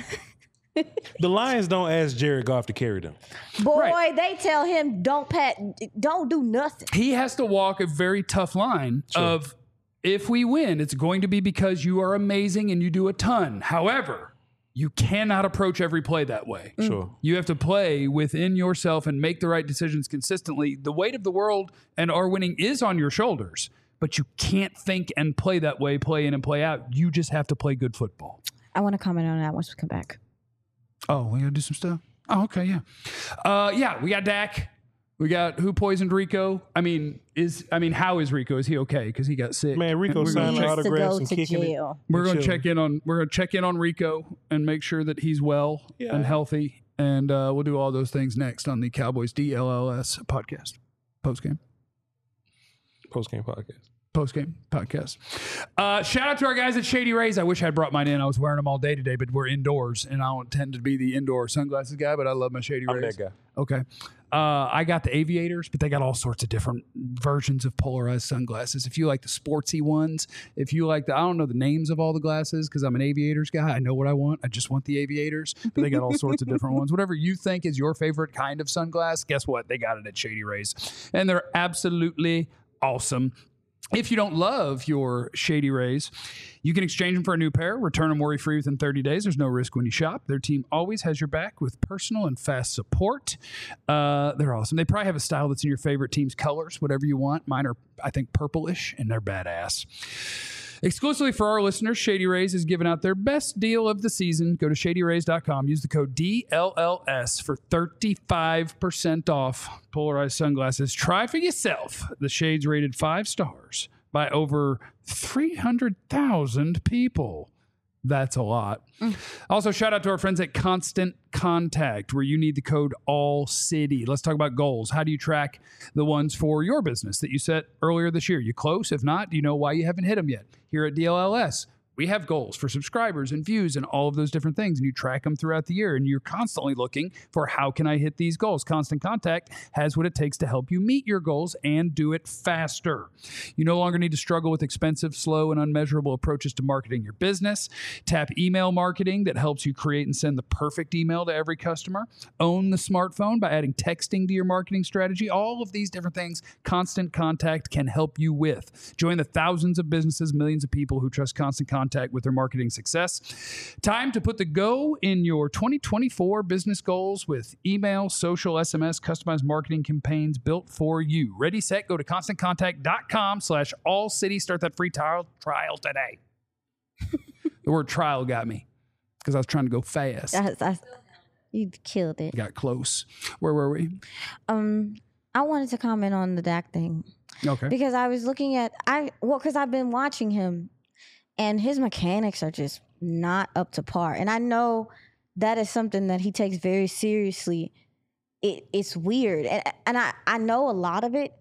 The Lions don't ask Jared Goff to carry them. boy, Right. they tell him don't pat, don't do nothing. He has to walk a very tough line Sure. of if we win, it's going to be because you are amazing and you do a ton. However, you cannot approach every play that way. Sure. You have to play within yourself and make the right decisions consistently. The weight of the world and our winning is on your shoulders, but you can't think and play that way, play in and play out. You just have to play good football. I want to comment on that once we come back. Oh, we gotta do some stuff. Oh, okay, yeah, uh, yeah. We got Dak. We got who poisoned Rico. I mean, is I mean, how is Rico? Is he okay? Because he got sick. Man, Rico And we're signed gonna an check, Needs to autographs go and to kicking it. jail. we're gonna chilling. check in on we're gonna check in on Rico and make sure that he's well Yeah. and healthy, and uh, we'll do all those things next on the Cowboys D L L S podcast post game. Post game podcast. Post game podcast. Uh, shout out to our guys at Shady Rays. I wish I'd brought mine in. I was wearing them all day today, but we're indoors, and I don't tend to be the indoor sunglasses guy, but I love my Shady I'm Rays. that guy. Okay. Uh, I got the aviators, but they got all sorts of different versions of polarized sunglasses. If you like the sportsy ones, if you like the, I don't know the names of all the glasses because I'm an aviators guy. I know what I want. I just want the aviators, but they got all sorts of different ones. Whatever you think is your favorite kind of sunglass, guess what? They got it at Shady Rays, and they're absolutely awesome. If you don't love your Shady Rays, you can exchange them for a new pair, return them worry-free within thirty days. There's no risk when you shop. Their team always has your back with personal and fast support. Uh, they're awesome. They probably have a style that's in your favorite team's colors, whatever you want. Mine are, I think, purplish, and they're badass. Exclusively for our listeners, Shady Rays is giving out their best deal of the season. Go to shady rays dot com. Use the code D L L S for thirty-five percent off polarized sunglasses. Try for yourself. The shades rated five stars by over three hundred thousand people. That's a lot. Mm. Also, shout out to our friends at Constant Contact, where you need the code ALLCITY. Let's talk about goals. How do you track the ones for your business that you set earlier this year? You close? If not, do you know why you haven't hit them yet? Here at D L L S, we have goals for subscribers and views and all of those different things, and you track them throughout the year, and you're constantly looking for how can I hit these goals. Constant Contact has what it takes to help you meet your goals and do it faster. You no longer need to struggle with expensive, slow, and unmeasurable approaches to marketing your business. Tap email marketing that helps you create and send the perfect email to every customer. Own the smartphone by adding texting to your marketing strategy. All of these different things Constant Contact can help you with. Join the thousands of businesses, millions of people who trust Constant Contact with their marketing success. Time to put the go in your twenty twenty-four business goals with email, social, S M S, customized marketing campaigns built for you. Ready, set, go to constant contact dot com slash all city. Start that free trial, trial today. The word trial got me because I was trying to go fast. That's, that's, you killed it. Got close. Where were we? Um, I wanted to comment on the Dak thing Okay. because I was looking at I well because I've been watching him. And his mechanics are just not up to par. And I know that is something that he takes very seriously. It, it's weird. And, and I, I know a lot of it.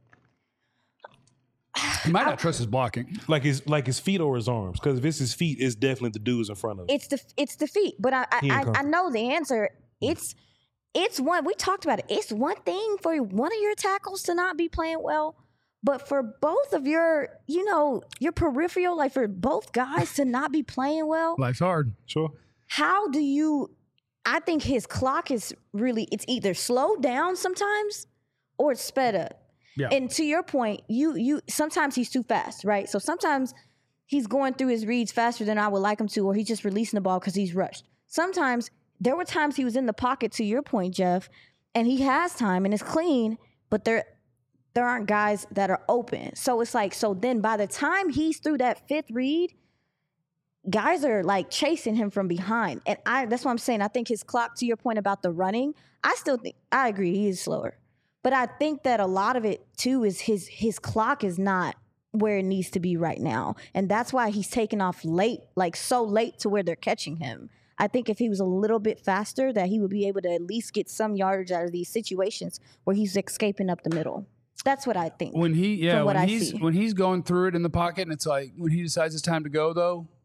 He might not trust his blocking. Like his like his feet or his arms. Because if it's his feet, it's definitely the dudes in front of him. It's the it's the feet. But I He I, ain't I, I comfortable. know the answer. It's it's one we talked about it. It's one thing for one of your tackles to not be playing well. But for both of your, you know, your peripheral, like for both guys to not be playing well, Life's hard. Sure. how do you, I think his clock is really, it's either slowed down sometimes or it's sped up. Yeah. And to your point, you, you, sometimes he's too fast, right? So sometimes he's going through his reads faster than I would like him to, or he's just releasing the ball because he's rushed. Sometimes there were times he was in the pocket, to your point, Jeff, and he has time and it's clean, but there, there aren't guys that are open. So it's like, so then by the time he's through that fifth read, guys are like chasing him from behind. And I that's what I'm saying. I think his clock, to your point about the running, I still think, I agree, he is slower. But I think that a lot of it too is his his clock is not where it needs to be right now. And that's why he's taking off late, like so late to where they're catching him. I think if he was a little bit faster, that he would be able to at least get some yardage out of these situations where he's escaping up the middle. That's what I think. When he, yeah, from what when I he's see. when he's going through it in the pocket, and it's like when he decides it's time to go, though,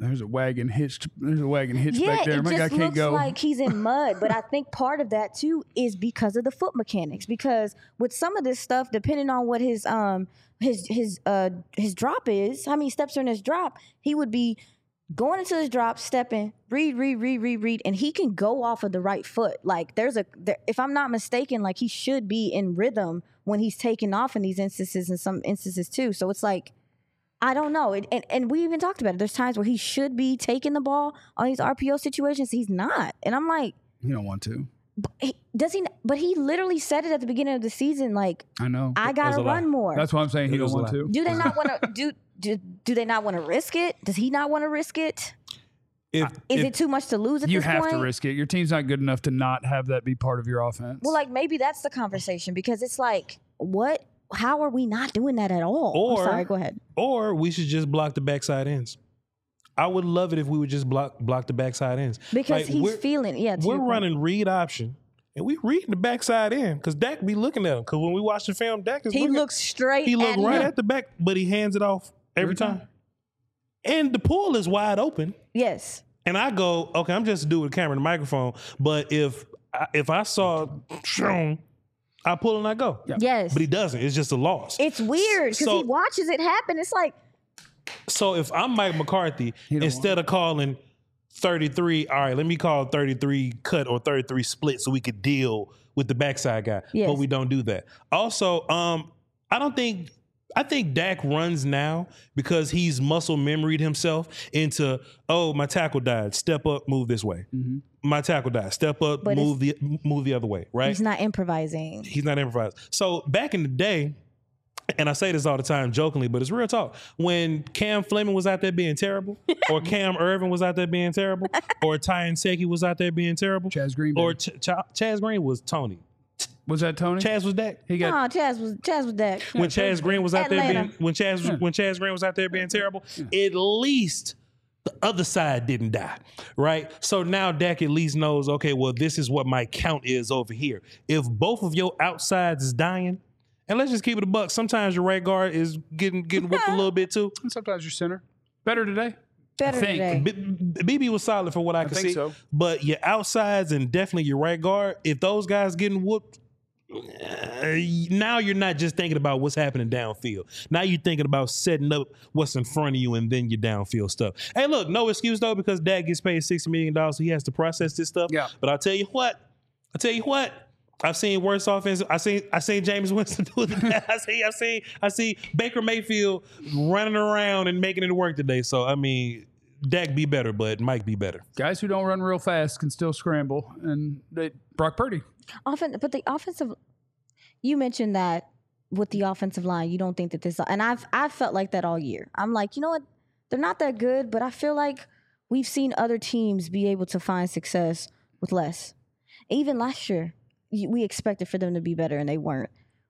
There's a wagon hitched. There's a wagon hitched Yeah, back there. it My guy just can't looks go. like he's in mud. But I think part of that too is because of the foot mechanics. Because with some of this stuff, depending on what his um his his uh his drop is, how many steps are in his drop, he would be going into his drop, stepping, read, read, read, read, read, and he can go off of the right foot. Like there's a, there, if I'm not mistaken, like he should be in rhythm when he's taking off in these instances and some instances too. So it's like, I don't know. It, and, and we even talked about it. There's times where he should be taking the ball on these R P O situations. He's not. And I'm like, You don't want to. he, does he, but he literally said it at the beginning of the season. Like, I know. I got to was a lie. run more. That's why I'm saying he It don't was a want lie. to. do they not want to do, do, do they not want to risk it? Does he not want to risk it? If, Is if, it too much to lose at You this have point? to risk it. Your team's not good enough to not have that be part of your offense. Well, like maybe that's the conversation because it's like, what? How are we not doing that at all? Or- I'm sorry, go ahead. or we should just block the backside ends. I would love it if we would just block block the backside ends. Because Like, he's we're- feeling, yeah. to We're your point. running read option, and we reading the backside end because Dak be looking at him. Because when we watch the film, Dak is He looking, looks straight. he look at right him. at the back, but he hands it off every, Every time. time. And the pool is wide open. Yes. And I go, okay, I'm just a dude with a camera and a microphone. But if I, if I saw Sean, I pull and I go. Yes. But he doesn't. It's just a loss. It's weird because So- he watches it happen. It's like, So if I'm Mike McCarthy, don't instead of calling thirty-three, all right, let me call thirty-three cut or thirty-three split so we could deal with the backside guy. Yes. But we don't do that. Also, um, I don't think I think Dak runs now because he's muscle memoried himself into, oh, my tackle died. Step up, move this way. My tackle died. Step up, But move the move the other way. Right? he's not improvising. He's not improvised. So back in the day, and I say this all the time jokingly, but it's real talk. When Cam Fleming was out there being terrible, or Cam Irvin was out there being terrible, or Ty Seki was out there being terrible, Chaz Green. or baby. Ch- Ch- Chaz Green was Tony. was that Tony? Chaz was Dak. he got No, Chaz was Chaz was that. When Chaz Green was out there Atlanta. being when Chaz was, when Chaz Green was out there being terrible, at least the other side didn't die, right? So now Dak at least knows, okay, well, this is what my count is over here. If both of your outsides is dying, and let's just keep it a buck, sometimes your right guard is getting getting whooped a little bit too. And sometimes your center. Better today. Better I think. today. B- B B was solid for what I, could think see, so. but your outsides and definitely your right guard, if those guys getting whooped, uh, now you're not just thinking about what's happening downfield. Now you're thinking about setting up what's in front of you and then your downfield stuff. Hey, look, no excuse though, because Dad gets paid sixty million dollars, so he has to process this stuff. Yeah. But I'll tell you what, I'll tell you what. I've seen worse offense. I seen I seen James Winston do it today. I see I see I see Baker Mayfield running around and making it work today. So I mean, Dak be better, but Mike be better. Guys who don't run real fast can still scramble. And they, Brock Purdy. Offen- but the offensive, you mentioned that with the offensive line, you don't think that this, and I've I've felt like that all year. I'm like, you know what? They're not that good, but I feel like we've seen other teams be able to find success with less. Even last year, you- we expected for them to be better, and they weren't.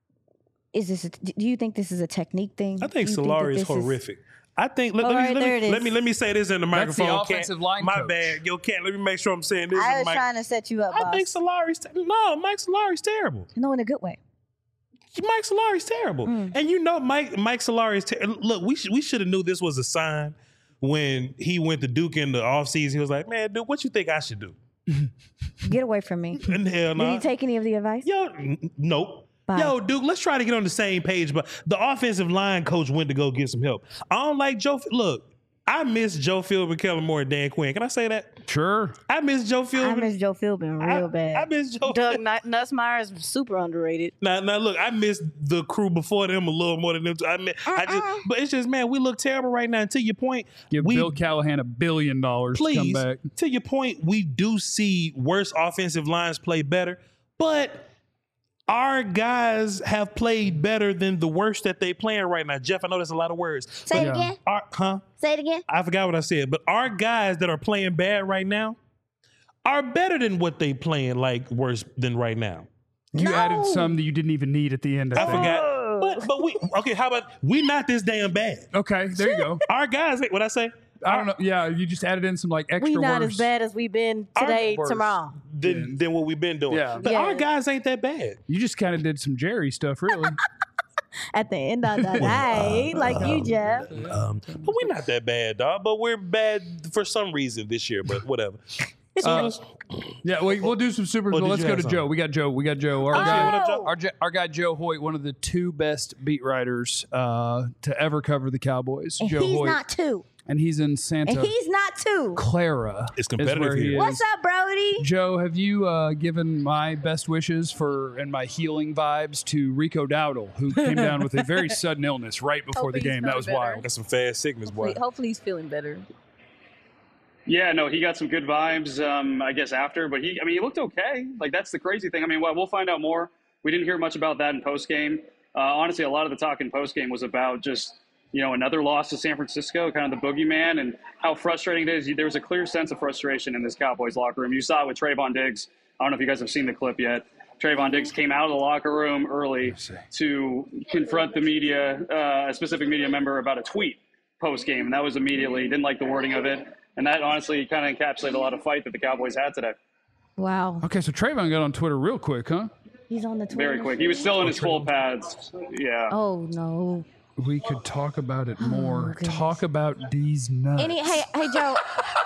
Is this? A, do you think this is a technique thing? I think Do you that Solari is this horrific. I think let, All let, right, me, there let, it me, is. let me let me say this in the That's the microphone. Cat. offensive line My coach. bad, yo, Cat. Let me make sure I'm saying this. I in was the mic. trying to set you up, I boss. think Solari's te- no, Mike Solari's terrible. No, in a good way. Mike Solari's terrible, Mm. and you know Mike Mike Solari's ter- look. We sh- we should have knew this was a sign when he went to Duke in the offseason. He was like, "Man, dude, what you think I should do?" Get away from me. And hell Did no. you take any of the advice? Yo, n- nope. Bye. Yo, Duke, let's try to get on the same page. But the offensive line coach went to go get some help. I don't like Joe. Look, I miss Joe Philbin, Kellen Moore, and Dan Quinn. Can I say that? Sure. I miss Joe I Philbin. miss Joe Philbin real I- bad. I miss Joe. Doug Nut- Nussmeier is super underrated. Now, now, look, I miss the crew before them a little more than them. Two. I mean, I just, Uh-uh. but it's just, man, we look terrible right now. And to your point, Give we Bill Callahan a billion dollars to come please, back. to your point, we do see worse offensive lines play better, but our guys have played better than the worst that they playing right now. Jeff, I know that's a lot of words. Say it Yeah. again. Our, huh? Say it again. I forgot what I said, but our guys that are playing bad right now are better than what they playing like worse than right now. You No. added some that you didn't even need at the end. I I think. forgot, but but we okay. How about we not this damn bad? Okay, there you go. Our guys, what I say? I don't know. Yeah, you just added in some like extra We not words. as bad as we've been today, Worse. tomorrow. Than, Yeah. than what we've been doing. Yeah. But Yeah. our guys ain't that bad. You just kind of did some Jerry stuff, really. at the end of the day, uh, like um, you, Jeff. Um, but we're not that bad, dog. But we're bad for some reason this year. But whatever. Uh, yeah, we, we'll do some supers, Oh, but did let's you go have to something? Joe. We got Joe. We got Joe. Our, Oh. guy, What up, Joe? our, our guy, Joe Hoyt, one of the two best beat writers uh, to ever cover the Cowboys. And Joe he's Hoyt. not two. And he's in Santa And he's not two. Clara. It's is competitive where he here. is. What's up, Brody? Joe, have you uh, given my best wishes for and my healing vibes to Rico Dowdle, who came down with a very sudden illness right before the Hopefully he's game? That was feeling better. wild. Got some fast sickness, boy. Hopefully, hopefully he's feeling better. Yeah, no, he got some good vibes, um, I guess, after. But he, I mean, he looked okay. Like, that's the crazy thing. I mean, well, we'll find out more. We didn't hear much about that in postgame. Uh, honestly, a lot of the talk in postgame was about just, you know, another loss to San Francisco, kind of the boogeyman, and how frustrating it is. There was a clear sense of frustration in this Cowboys locker room. You saw it with Trayvon Diggs. I don't know if you guys have seen the clip yet. Trayvon Diggs came out of the locker room early to confront the media, uh, a specific media member, about a tweet post-game, and that was immediately, didn't like the wording of it. And that honestly kind of encapsulated a lot of fight that the Cowboys had today. Wow. Okay, so Trayvon got on Twitter real quick, huh? He's on the Twitter. Very quick. He was still in his full pads. Yeah. Oh, no. We could talk about it more. goodness. Talk about these nuts. Any, hey, hey, Joe.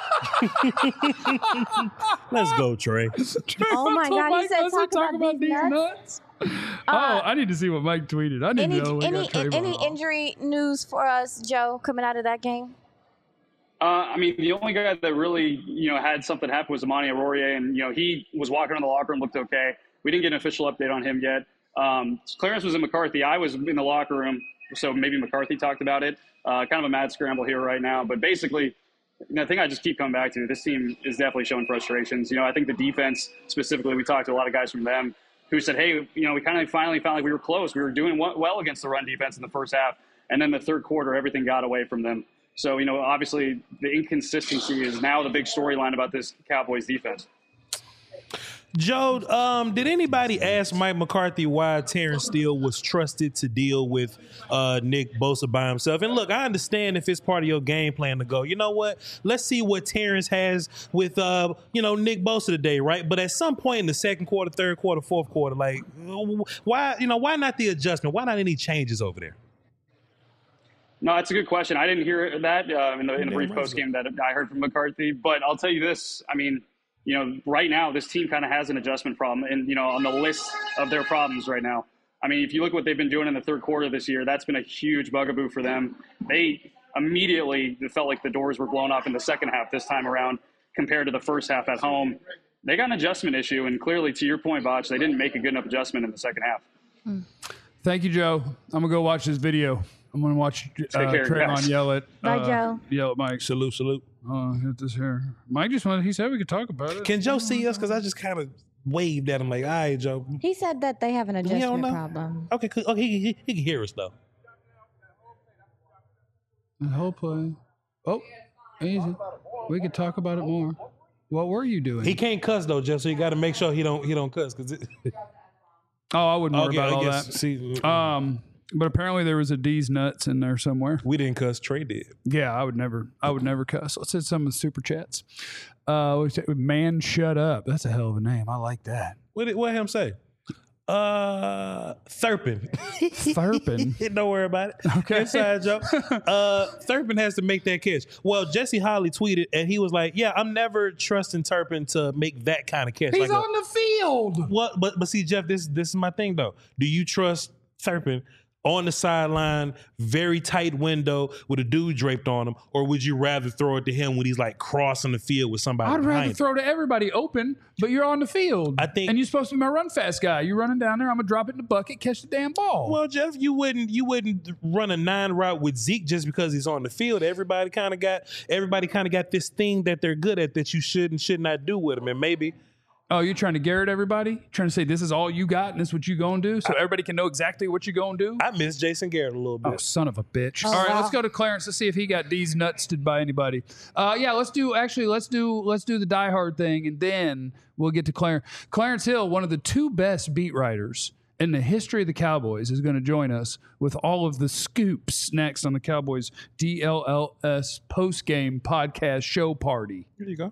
Let's go, Trey. Oh, my God. He said talk, about, these nuts. oh, I need to see what Mike tweeted. I need Any, to know. what any, got Trayvon any off. injury news for us, Joe, coming out of that game? Uh, I mean, the only guy that really, you know, had something happen was Amani Arourier, and, you know, he was walking around the locker room, looked okay. We didn't get an official update on him yet. Um, Clarence was in McCarthy. I was in the locker room, so maybe McCarthy talked about it. Uh, kind of a mad scramble here right now. But basically, the thing I just keep coming back to, this team is definitely showing frustrations. You know, I think the defense specifically, we talked to a lot of guys from them who said, hey, you know, we kind of finally felt like we were close. We were doing well against the run defense in the first half. And then the third quarter, everything got away from them. So, you know, obviously the inconsistency is now the big storyline about this Cowboys defense. Joe, um, did anybody ask Mike McCarthy why Terrence Steele was trusted to deal with uh, Nick Bosa by himself? And look, I understand if it's part of your game plan to go, you know what? Let's see what Terrence has with, uh, you know, Nick Bosa today, right? But at some point in the second quarter, third quarter, fourth quarter, like, why, you know, why not the adjustment? Why not any changes over there? No, that's a good question. I didn't hear that uh, in the, in the brief post game that I heard from McCarthy. But I'll tell you this. I mean, you know, right now this team kind of has an adjustment problem, and you know, on the list of their problems right now. I mean, if you look what they've been doing in the third quarter this year, that's been a huge bugaboo for them. They immediately it felt like the doors were blown off in the second half this time around compared to the first half at home. They got an adjustment issue, and clearly, to your point, Botch, they didn't make a good enough adjustment in the second half. Thank you, Joe. I'm gonna go watch this video. I'm gonna watch uh, care, Trayvon guys. yell at Bye, uh, Joe. yell at Mike. Salute, salute. Oh, hit this here. Mike just wanted. He said we could talk about it. Can Joe see us? Because I just kind of waved at him like, all right, Joe. He said that they have an don't adjustment know. problem. Okay, cool. Okay, he, he, he can hear us, though. The whole play. Oh, easy. We could talk about it more. What were you doing? He can't cuss, though, Jeff, so you got to make sure he don't he don't cuss. Cause it, oh, I wouldn't worry okay, about I all guess, that. see, Um, but apparently there was a D's nuts in there somewhere. we didn't cuss. Trey did. Yeah, I would never. I would never cuss. Let's hit some of the super chats. Uh, we say, man, shut up. That's a hell of a name. I like that. What did what him say? Uh, Thurpin. Thurpin. Don't worry about it. Okay. Inside joke. Uh, Thurpin has to make that catch. Well, Jesse Holly tweeted, and he was like, "Yeah, I'm never trusting Turpin to make that kind of catch." He's like a- on the field. What? But but see, Jeff, this this is my thing though. Do you trust Thurpin on the sideline, very tight window with a dude draped on him, or would you rather throw it to him when he's like crossing the field with somebody? I'd behind rather him? throw to everybody open, but you're on the field. I think- and you're supposed to be my run fast guy. You're running down there. I'm gonna drop it in the bucket, catch the damn ball. Well, Jeff, you wouldn't you wouldn't run a nine route with Zeke just because he's on the field. Everybody kind of got everybody kind of got this thing that they're good at that you should and should not do with them, and maybe. Oh, you're trying to Garrett everybody? Trying to say this is all you got and this is what you gonna do, so everybody can know exactly what you gonna do? I miss Jason Garrett a little bit. Oh, son of a bitch! Oh, All right, wow. let's go to Clarence. Let's see if he got D's nutsed by anybody. Uh, yeah, let's do. Actually, let's do. Let's do the Die Hard thing, and then we'll get to Clarence. Clarence Hill, one of the two best beat writers in the history of the Cowboys, is going to join us with all of the scoops next on the Cowboys D L L S post game podcast show party Here you go.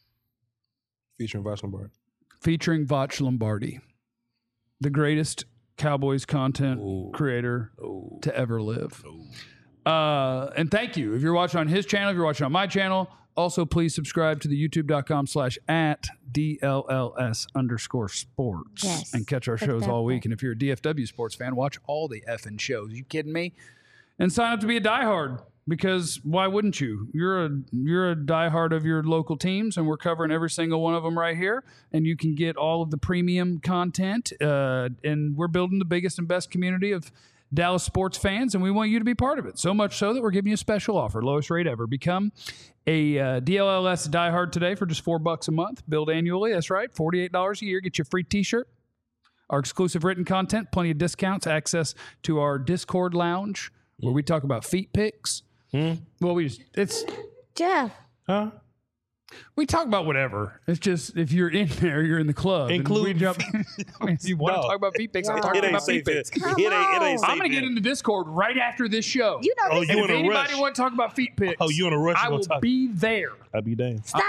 Featuring Voch Lombardi. featuring Voch Lombardi, the greatest Cowboys content Ooh. creator Ooh. to ever live. Ooh. Uh, and thank you. If you're watching on his channel, if you're watching on my channel, also please subscribe to the youtube.com slash at DLLS underscore sports Yes. and catch our Click shows that all week. button. And if you're a D F W sports fan, watch all the effing shows. You kidding me? And sign up to be a diehard, because why wouldn't you? You're a you're a diehard of your local teams, and we're covering every single one of them right here. And you can get all of the premium content. Uh, and we're building the biggest and best community of Dallas sports fans, and we want you to be part of it. So much so that we're giving you a special offer, lowest rate ever. Become a uh, D L L S diehard today for just four bucks a month. Billed annually. That's right, forty-eight dollars a year. Get you a free T-shirt, our exclusive written content, plenty of discounts, access to our Discord lounge where we talk about feet pics. Hmm? Well, we just it's Jeff, Huh? we talk about whatever. It's just if you're in there, you're in the club. and Include we jump. I mean, if you want No. to talk about feet pics, I'm Wow. talking It ain't about feet safe. It, pics. it ain't. It ain't safe. I'm going to get yet. into Discord right after this show. you know Oh, this you and in if a anybody rush? want to talk about feet pics, Oh, you in a rush? I You gonna will talk- be there. I'll be damned. Stop.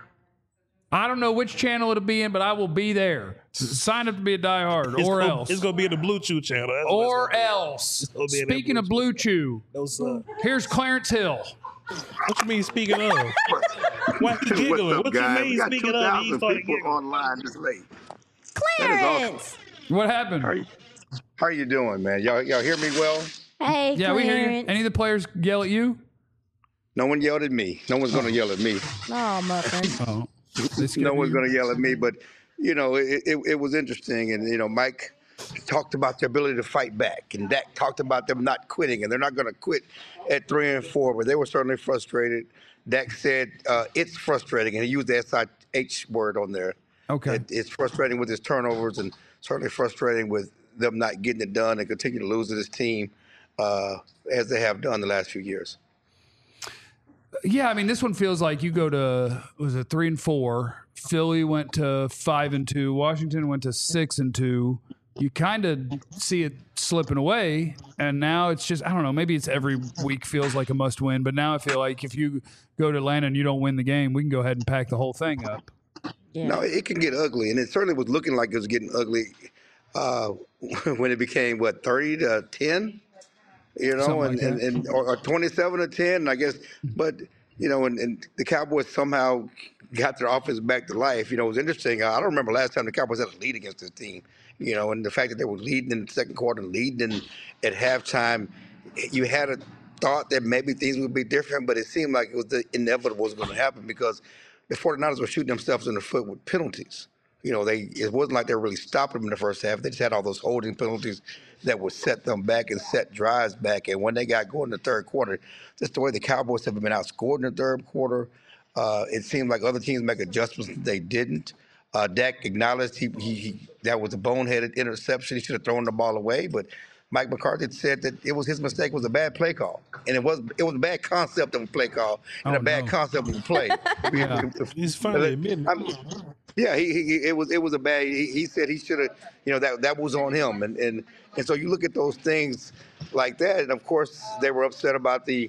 I don't know which channel it'll be in, but I will be there. S- Sign up to be a diehard, It's or gonna, else. It's gonna be in the Blue Chew channel. That's what or it's gonna be. else. gonna be in that Speaking of Blue Blue Chew, No, sir. here's Clarence Hill. What you mean speaking of? Why he giggling? What's up, What guys? you We mean got speaking two of? He thousand started people giggling. online this late. That is awesome. Clarence. What happened? How you, how you doing, man? Y'all, y'all hear me well? Hey, Yeah, we hear you. Clarence. Any of the players yell at you? No one yelled at me. No one's going to yell at me. Oh, muffin. Oh. No one's going to yell at me. But, you know, it, it, it was interesting. And, you know, Mike talked about the ability to fight back. And Dak talked about them not quitting. And they're not going to quit at three and four. But they were certainly frustrated. Dak said uh, it's frustrating. And he used the S I H word on there. Okay. It, it's frustrating with his turnovers and certainly frustrating with them not getting it done and continue to lose to this team uh, as they have done the last few years. Yeah, I mean, this one feels like you go to, was it three and four? Philly went to five and two. Washington went to six and two. You kind of see it slipping away, and now it's just, I don't know, maybe it's every week feels like a must win, but now I feel like if you go to Atlanta and you don't win the game, we can go ahead and pack the whole thing up. Yeah. No, it can get ugly, and it certainly was looking like it was getting ugly uh, when it became, what, thirty to ten? You know, Something and, like and, that. and or, or twenty-seven to ten, I guess. But, you know, and, and the Cowboys somehow got their offense back to life. You know, it was interesting. I don't remember last time the Cowboys had a lead against this team. You know, and the fact that they were leading in the second quarter, leading in, at halftime, you had a thought that maybe things would be different, but it seemed like it was the inevitable was going to happen because the 49ers were shooting themselves in the foot with penalties. You know, they it wasn't like they were really stopping them in the first half. They just had all those holding penalties that would set them back and set drives back. And when they got going in the third quarter, just the way the Cowboys have been outscored in the third quarter, uh, it seemed like other teams make adjustments. They didn't. Uh, Dak acknowledged he, he, he that was a boneheaded interception. He should have thrown the ball away, but Mike McCarthy said that it was his mistake. It was a bad play call, and it was it was a bad concept of a play call and Oh, a bad no. concept of a play. He's finally admitting. I'm- Yeah, he, he it was it was a bad. He, he said he should have, you know, that that was on him, and and and so you look at those things like that, and of course they were upset about the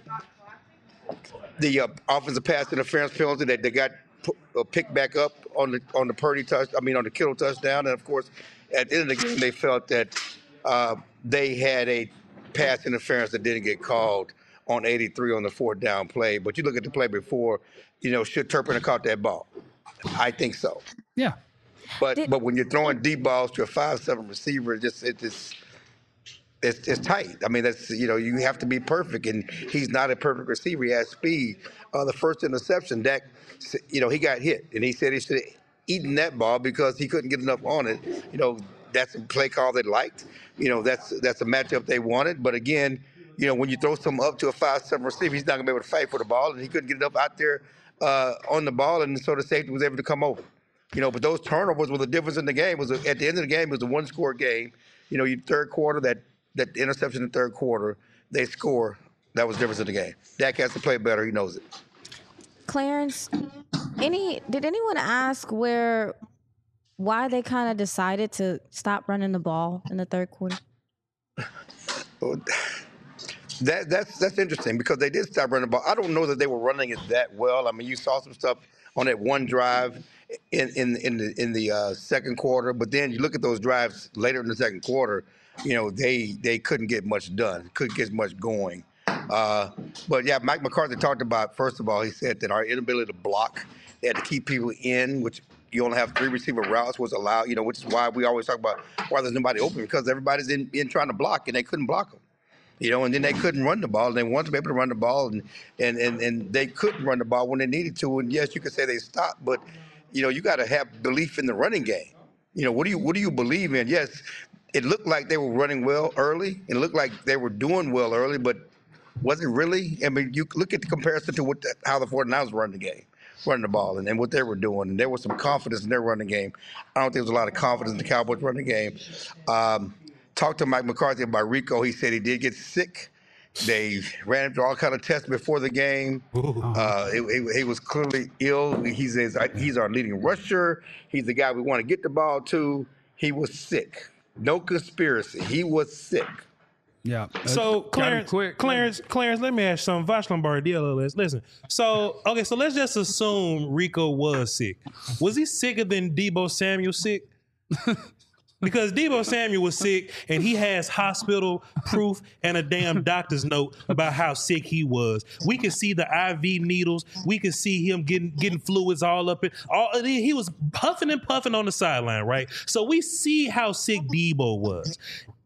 the uh, offensive pass interference penalty that they got pu- uh, picked back up on the on the Purdy touch. I mean on the Kittle touchdown, and of course at the end of the game they felt that uh, they had a pass interference that didn't get called on eighty-three on the fourth down play. But you look at the play before, you know, should Turpin have caught that ball? I think so. Yeah. But Did- but when you're throwing deep balls to a five seven receiver, it just it just it's it's tight. I mean that's you know you have to be perfect, and he's not a perfect receiver. He has speed. Uh, the first interception, Dak, you know he got hit, and he said he should have eaten that ball because he couldn't get enough on it. You know that's a play call they liked. You know that's that's a matchup they wanted. But again, you know when you throw something up to a five seven receiver, he's not gonna be able to fight for the ball, and he couldn't get enough out there uh, on the ball, and so the safety was able to come over. You know, but those turnovers were the difference in the game. Was at the end of the game, it was a one-score game. You know, you third quarter, that that interception in the third quarter, they score. That was the difference in the game. Dak has to play better. He knows it. Clarence, any did anyone ask where why they kind of decided to stop running the ball in the third quarter? But that that's that's interesting because they did stop running the ball. I don't know that they were running it that well. I mean, you saw some stuff on that one drive in in in the in the uh, second quarter, but then you look at those drives later in the second quarter. you know, they they couldn't get much done, couldn't get much going. Uh, but yeah, Mike McCarthy talked about, first of all, he said that our inability to block, they had to keep people in, which you only have three receiver routes was allowed, you know, which is why we always talk about why there's nobody open, because everybody's in, in trying to block and they couldn't block them. You know, and then they couldn't run the ball. And they wanted to be able to run the ball, and, and, and, and they couldn't run the ball when they needed to. And yes, you could say they stopped, but, you know, you got to have belief in the running game. You know, what do you what do you believe in? Yes, it looked like they were running well early. It looked like they were doing well early, but was it really? I mean, you look at the comparison to what the, how the 49ers run the game, running the ball, and, and what they were doing. And there was some confidence in their running game. I don't think there was a lot of confidence in the Cowboys running game. Um, talked to Mike McCarthy about Rico. He said he did get sick. They ran him through all kind of tests before the game. Uh, he, he, he was clearly ill. He says he's our leading rusher. He's the guy we want to get the ball to. He was sick. No conspiracy. He was sick. Yeah. So Uh, Clarence, quick. Clarence, Clarence, let me ask you something. Vash Lombardi, listen, listen. So okay, so let's just assume Rico was sick. Was he sicker than Deebo Samuel sick? Because Deebo Samuel was sick and he has hospital proof and a damn doctor's note about how sick he was. We could see the I V needles. We could see him getting getting fluids all up in all. He was puffing and puffing on the sideline, right? So we see how sick Deebo was.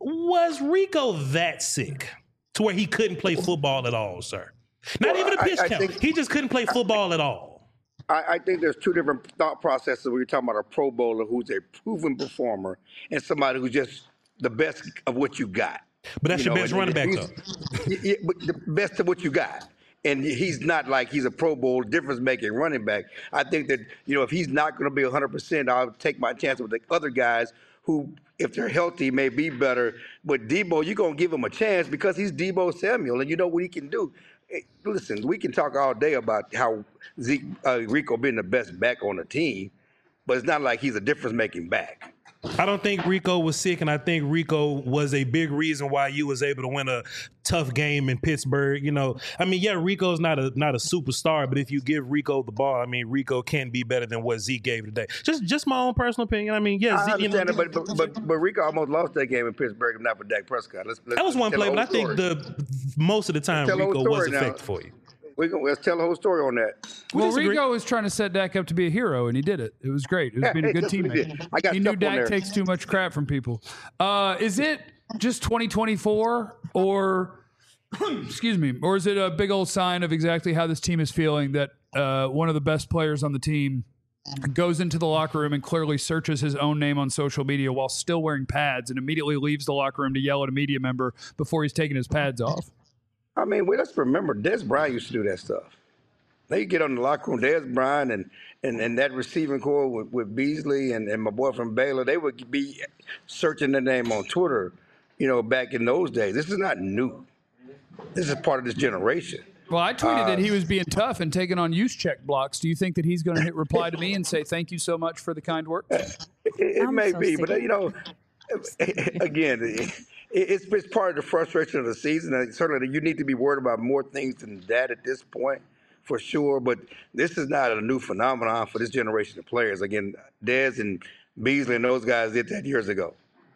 Was Rico that sick to where he couldn't play football at all, sir? Not Well, even a pitch I- I count. think- He just couldn't play football at all. I, I think there's two different thought processes when you're talking about a Pro Bowler who's a proven performer and somebody who's just the best of what you got. But that's You your know, best and- running back, and though. he's- yeah, but the best of what you got. And he's not like he's a Pro Bowl difference-making running back. I think that, you know, if he's not going to be one hundred percent, I'll take my chance with the other guys who, if they're healthy, may be better. But Deebo, you're going to give him a chance because he's Deebo Samuel, and you know what he can do. Hey, listen, we can talk all day about how Zeke, uh, Rico being the best back on the team, but it's not like he's a difference-making back. I don't think Rico was sick, and I think Rico was a big reason why you was able to win a tough game in Pittsburgh. You know, I mean, yeah, Rico's not a not a superstar, but if you give Rico the ball, I mean, Rico can be better than what Zeke gave today. Just just my own personal opinion. I mean, yeah, I Zeke, you know, understand it, but, but, but, but Rico almost lost that game in Pittsburgh, if not for Dak Prescott. Let's, let's, that was one tell play, the but I whole think story. the most of the time Tell the whole Rico was story now. effective for you. We can, let's tell the whole story on that. We Well, disagree. Rico was trying to set Dak up to be a hero, and he did it. It was great. It was Yeah, being a good that's what he teammate. did. I got He stuff knew on Dak there. takes too much crap from people. Uh, is it just twenty twenty-four, or excuse me, or is it a big old sign of exactly how this team is feeling that uh, one of the best players on the team goes into the locker room and clearly searches his own name on social media while still wearing pads and immediately leaves the locker room to yell at a media member before he's taking his pads off? I mean, well, let's remember, Des Bryant used to do that stuff. They get on the locker room, Des Bryant and, and, and that receiving core with, with Beasley and, and my boy from Baylor, they would be searching their name on Twitter, you know, back in those days. This is not new. This is part of this generation. Well, I tweeted Uh, that he was being tough and taking on use check blocks. Do you think that he's going to hit reply to me and say thank you so much for the kind work? It, it I'm may so be, sick but, of you know, again, it, it's, it's part of the frustration of the season. And certainly you need to be worried about more things than that at this point, for sure. But this is not a new phenomenon for this generation of players. Again, Dez and Beasley and those guys did that years ago.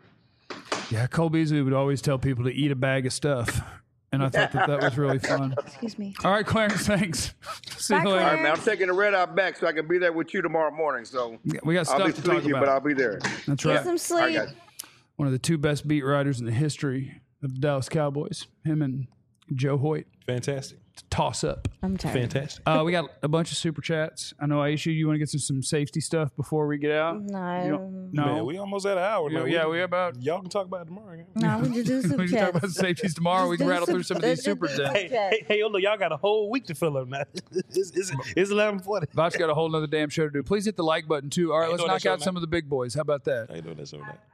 Yeah, Cole Beasley would always tell people to eat a bag of stuff. And I thought that that was really fun. Excuse me. All right, Clarence, thanks. See you Bye, later. All right, man, I'm Clarence. taking the red eye back so I can be there with you tomorrow morning. So We got I'll stuff be to talk sleepy, but I'll about. be there. That's Get right. some All right, sleep. guys. One of the two best beat writers in the history of the Dallas Cowboys, him and Joe Hoyt. Fantastic. Toss up. I'm tired. Fantastic. Uh, we got a bunch of super chats. I know, Aisha, you want to get some, some safety stuff before we get out? You No, don't- no. Man, we almost at an hour Yeah, now. yeah, we about- Y'all can talk about it tomorrow. man. no, we just do some we can talk chats. about safeties tomorrow. We can Just do rattle some- through some of these just- super just- chats. Hey, hey, hey, yo, look, y'all got a whole week to fill up now. it's, it's, it's eleven forty. Vach got a whole nother damn show to do. Please hit the like button, too. All right, How you let's doing that knock show, out man? some of the big boys. How about that? How you doing that show now?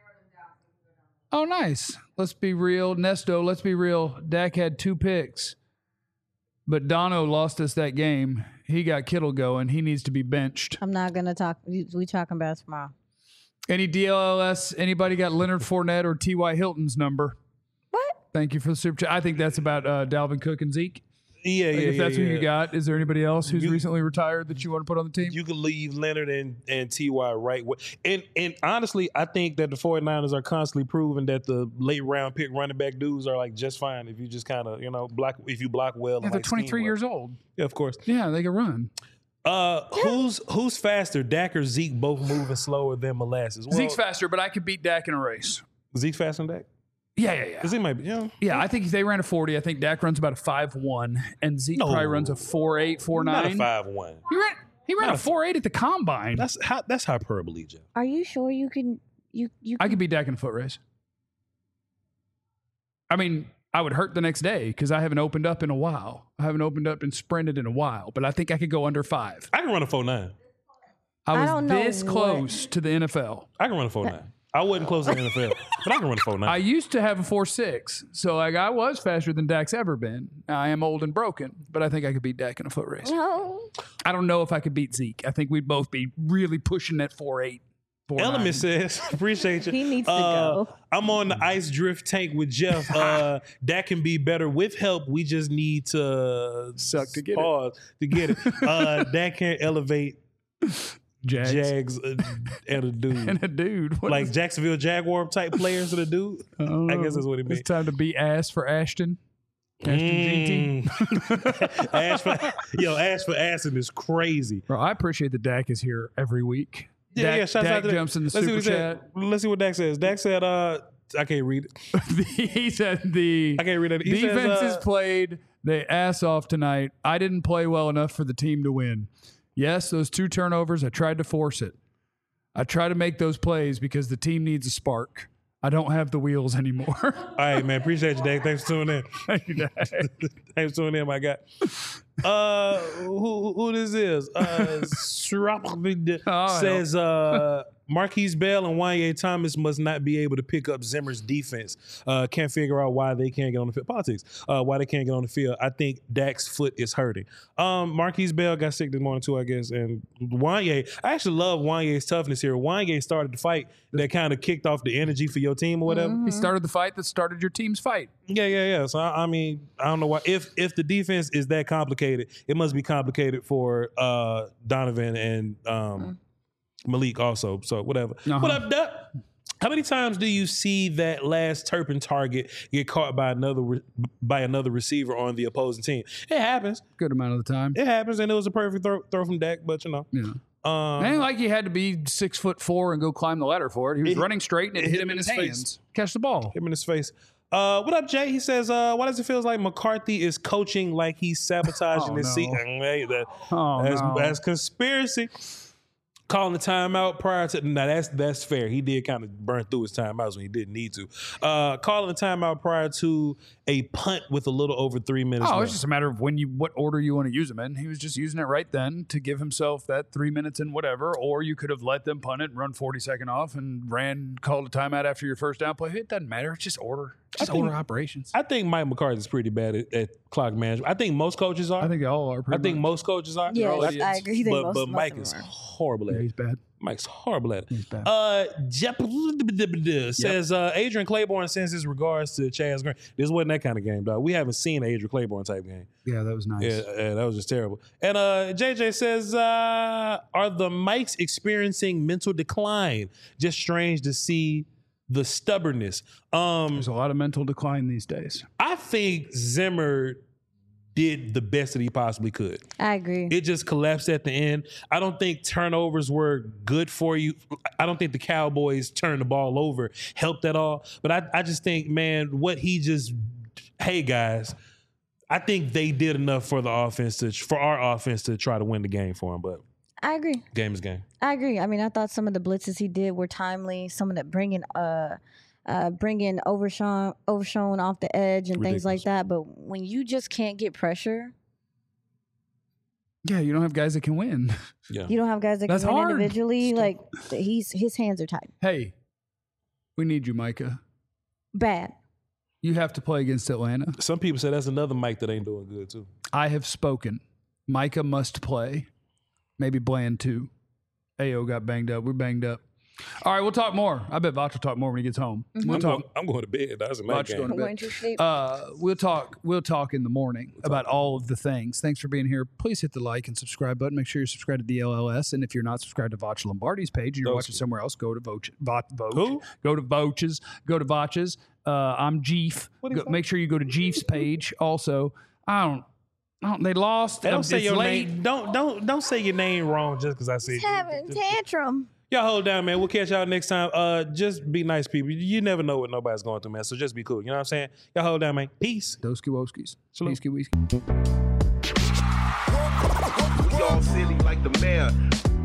Oh, nice. Let's be real. Nesto, let's be real. Dak had two picks, but Dono lost us that game. He got Kittle going. He needs to be benched. I'm not gonna talk. We, we talking about it tomorrow. Any D L L S? Anybody got Leonard Fournette or T Y Hilton's number? What? Thank you for the super chat. I think that's about uh, Dalvin Cook and Zeke. Yeah, yeah, Like, if yeah, that's yeah. who you got, is there anybody else who's You- recently retired that you want to put on the team? You could leave Leonard and, and T Y right. where- And and honestly, I think that the 49ers are constantly proving that the late round pick running back dudes are like just fine if you just kind of, you know, block if you block well. Yeah, and they're like scheme twenty-three well. years old. Yeah, of course. Yeah, they can run. Uh, who's who's faster, Dak or Zeke? Both moving slower than molasses. Well, Zeke's faster, but I could beat Dak in a race. Zeke's faster than Dak. Yeah, yeah, yeah. Because he might be. You know, Yeah, I think if they ran a forty, I think Dak runs about a five one, and Zeke No. probably runs a four eight, four not a nine. five one. He ran, he ran Not a a- four eight at the combine. That's how, that's hyperbole, Jeff. Are you sure you can? You you. I Can, could beat Dak in a foot race. I mean, I would hurt the next day because I haven't opened up in a while. I haven't opened up and sprinted in a while, but I think I could go under five. I can run a four nine. I I was don't know this what- close to the N F L. I can run a four nine. I wasn't close to the N F L, but I can run a four nine. I used to have a four six, so like I was faster than Dak's ever been. I am old and broken, but I think I could beat Dak in a foot race. no. I don't know if I could beat Zeke. I think we'd both be really pushing that four eight. Element says, appreciate you. He needs to Uh, go. I'm on the ice drift tank with Jeff. Uh, that can be better with help. We just need to Suck to get it. pause to get it. Uh, that can elevate Jags. Jags uh, and a dude. And a dude. What Like is- Jacksonville Jaguar type players and a dude. I, don't I know. guess that's what it means. It's time to beat ass for Ashton. Ashton G T. Mm. Ash for, yo, Ash for Aston is crazy. Bro, I appreciate that Dak is here every week. Yeah, Dak, yeah. Shouts Dak out to jumps in the Let's see super what he chat. said. Let's see what Dak says. Dak said, uh, I can't read it. He said the I can't read it. He says, defenses uh, played they ass off tonight. I didn't play well enough for the team to win. Yes, those two turnovers, I tried to force it. I try to make those plays because the team needs a spark. I don't have the wheels anymore. All right, man. Appreciate you, Dak. Thanks for tuning in. Thank you, Dak. Thanks for tuning in, my guy. Uh, who, who this is? Uh, Shrap- Oh, says uh, Marquise Bell and Wanye Thomas must not be able to pick up Zimmer's defense. Uh, can't figure out why they can't get on the field. Politics. Uh, why they can't get on the field. I think Dak's foot is hurting. Um, Marquise Bell got sick this morning too, I guess. And Wanye, I actually love Wanye's toughness here. Wanye started the fight that kind of kicked off the energy for your team or whatever. He started the fight that started your team's fight. Yeah, yeah, yeah. So I, I mean, I don't know why. If if the defense is that complicated, it must be complicated for uh, Donovan and um, Malik also. So whatever. Uh-huh. What up, Duck? How many times do you see that last Turpin target get caught by another re- by another receiver on the opposing team? It happens. Good amount of the time. It happens, and it was a perfect throw, throw from Dak. But you know, Yeah. um, It ain't like he had to be six foot four and go climb the ladder for it. He was It- running straight and it, hit him in his, face. hands. Catch the ball. him in his face. Uh, what up, Jay? He says, uh, why does it feel like McCarthy is coaching like he's sabotaging Oh, his no. seat? Hey, that, Oh, that's, no. that's conspiracy. Calling the timeout prior to now that's that's fair. He did kind of burn through his timeouts when he didn't need to. Uh, calling the timeout prior to a punt with a little over three minutes Oh, left. it's just a matter of when you, what order you want to use them in. He was just using it right then to give himself that three minutes and whatever, or you could have let them punt it and run forty second off and ran, called a timeout after your first down play. It doesn't matter. It's just order. Just I think- order operations. I think Mike McCarthy's pretty bad at, at clock management. I think most coaches are. I think they all are. I Pretty think much. most coaches are. Yes, all I idiots. agree. I think But, most, but most Mike of them is are. horrible at Yeah, it. he's bad. Mike's horrible at it. He's bad. Uh, Jep says uh, Adrian Claiborne sends his regards to Chaz Green. This wasn't that kind of game, dog. We haven't seen an Adrian Claiborne type game. Yeah, that was nice. Yeah, yeah, that was just terrible. And uh, J J says, uh, are the Mikes experiencing mental decline? Just strange to see the stubbornness. Um, There's a lot of mental decline these days. I think Zimmer did the best that he possibly could. I agree. It just collapsed at the end. I don't think turnovers were good for you. I don't think the Cowboys turned the ball over helped at all. But I, I just think, man, what he just, hey guys, I think they did enough for the offense to, for our offense to try to win the game for him. But I agree. game is game. I agree. I mean, I thought some of the blitzes he did were timely. Some of that bringing, uh, uh, bringing Overshawn, Overshawn off the edge and things like Ridiculous. that. But when you just can't get pressure, Yeah, you don't have guys that can win. Yeah. you don't have guys that That's can win hard. individually. Like he's his hands are tied. Hey, we need you, Micah. Bad. You have to play against Atlanta. Some people say that's another Mike that ain't doing good too. I have spoken. Micah must play. Maybe Bland too. A O got banged up. We're banged up. All right, we'll talk more. I bet Vach will talk more when he gets home. Mm-hmm. We'll I'm, talk. going, I'm going to bed. That's a night Vach game. going to Going bed. to sleep. Uh, we'll talk. We'll talk in the morning about all of the things. Thanks for being here. Please hit the like and subscribe button. Make sure you're subscribed to the L L S. And if you're not subscribed to Vach Lombardi's page and you're Those watching somewhere else, go to Voch. Voch, Voch Who? Go to Voch's. Go to Voch's. Uh, I'm Jeef. Go, make sure you go to Jeef's page. Also, I don't. I don't they lost. Don't Um, say it's your late. name. Don't don't don't say your name wrong just because I said. Having tantrum. Y'all hold down, man. We'll catch y'all next time. Uh, just be nice people. You never know what nobody's going through, man. So just be cool. You know what I'm saying? Y'all hold down, man. Peace. Doski Woskis. Shalom. Peace, whiskey. We all silly like the mayor.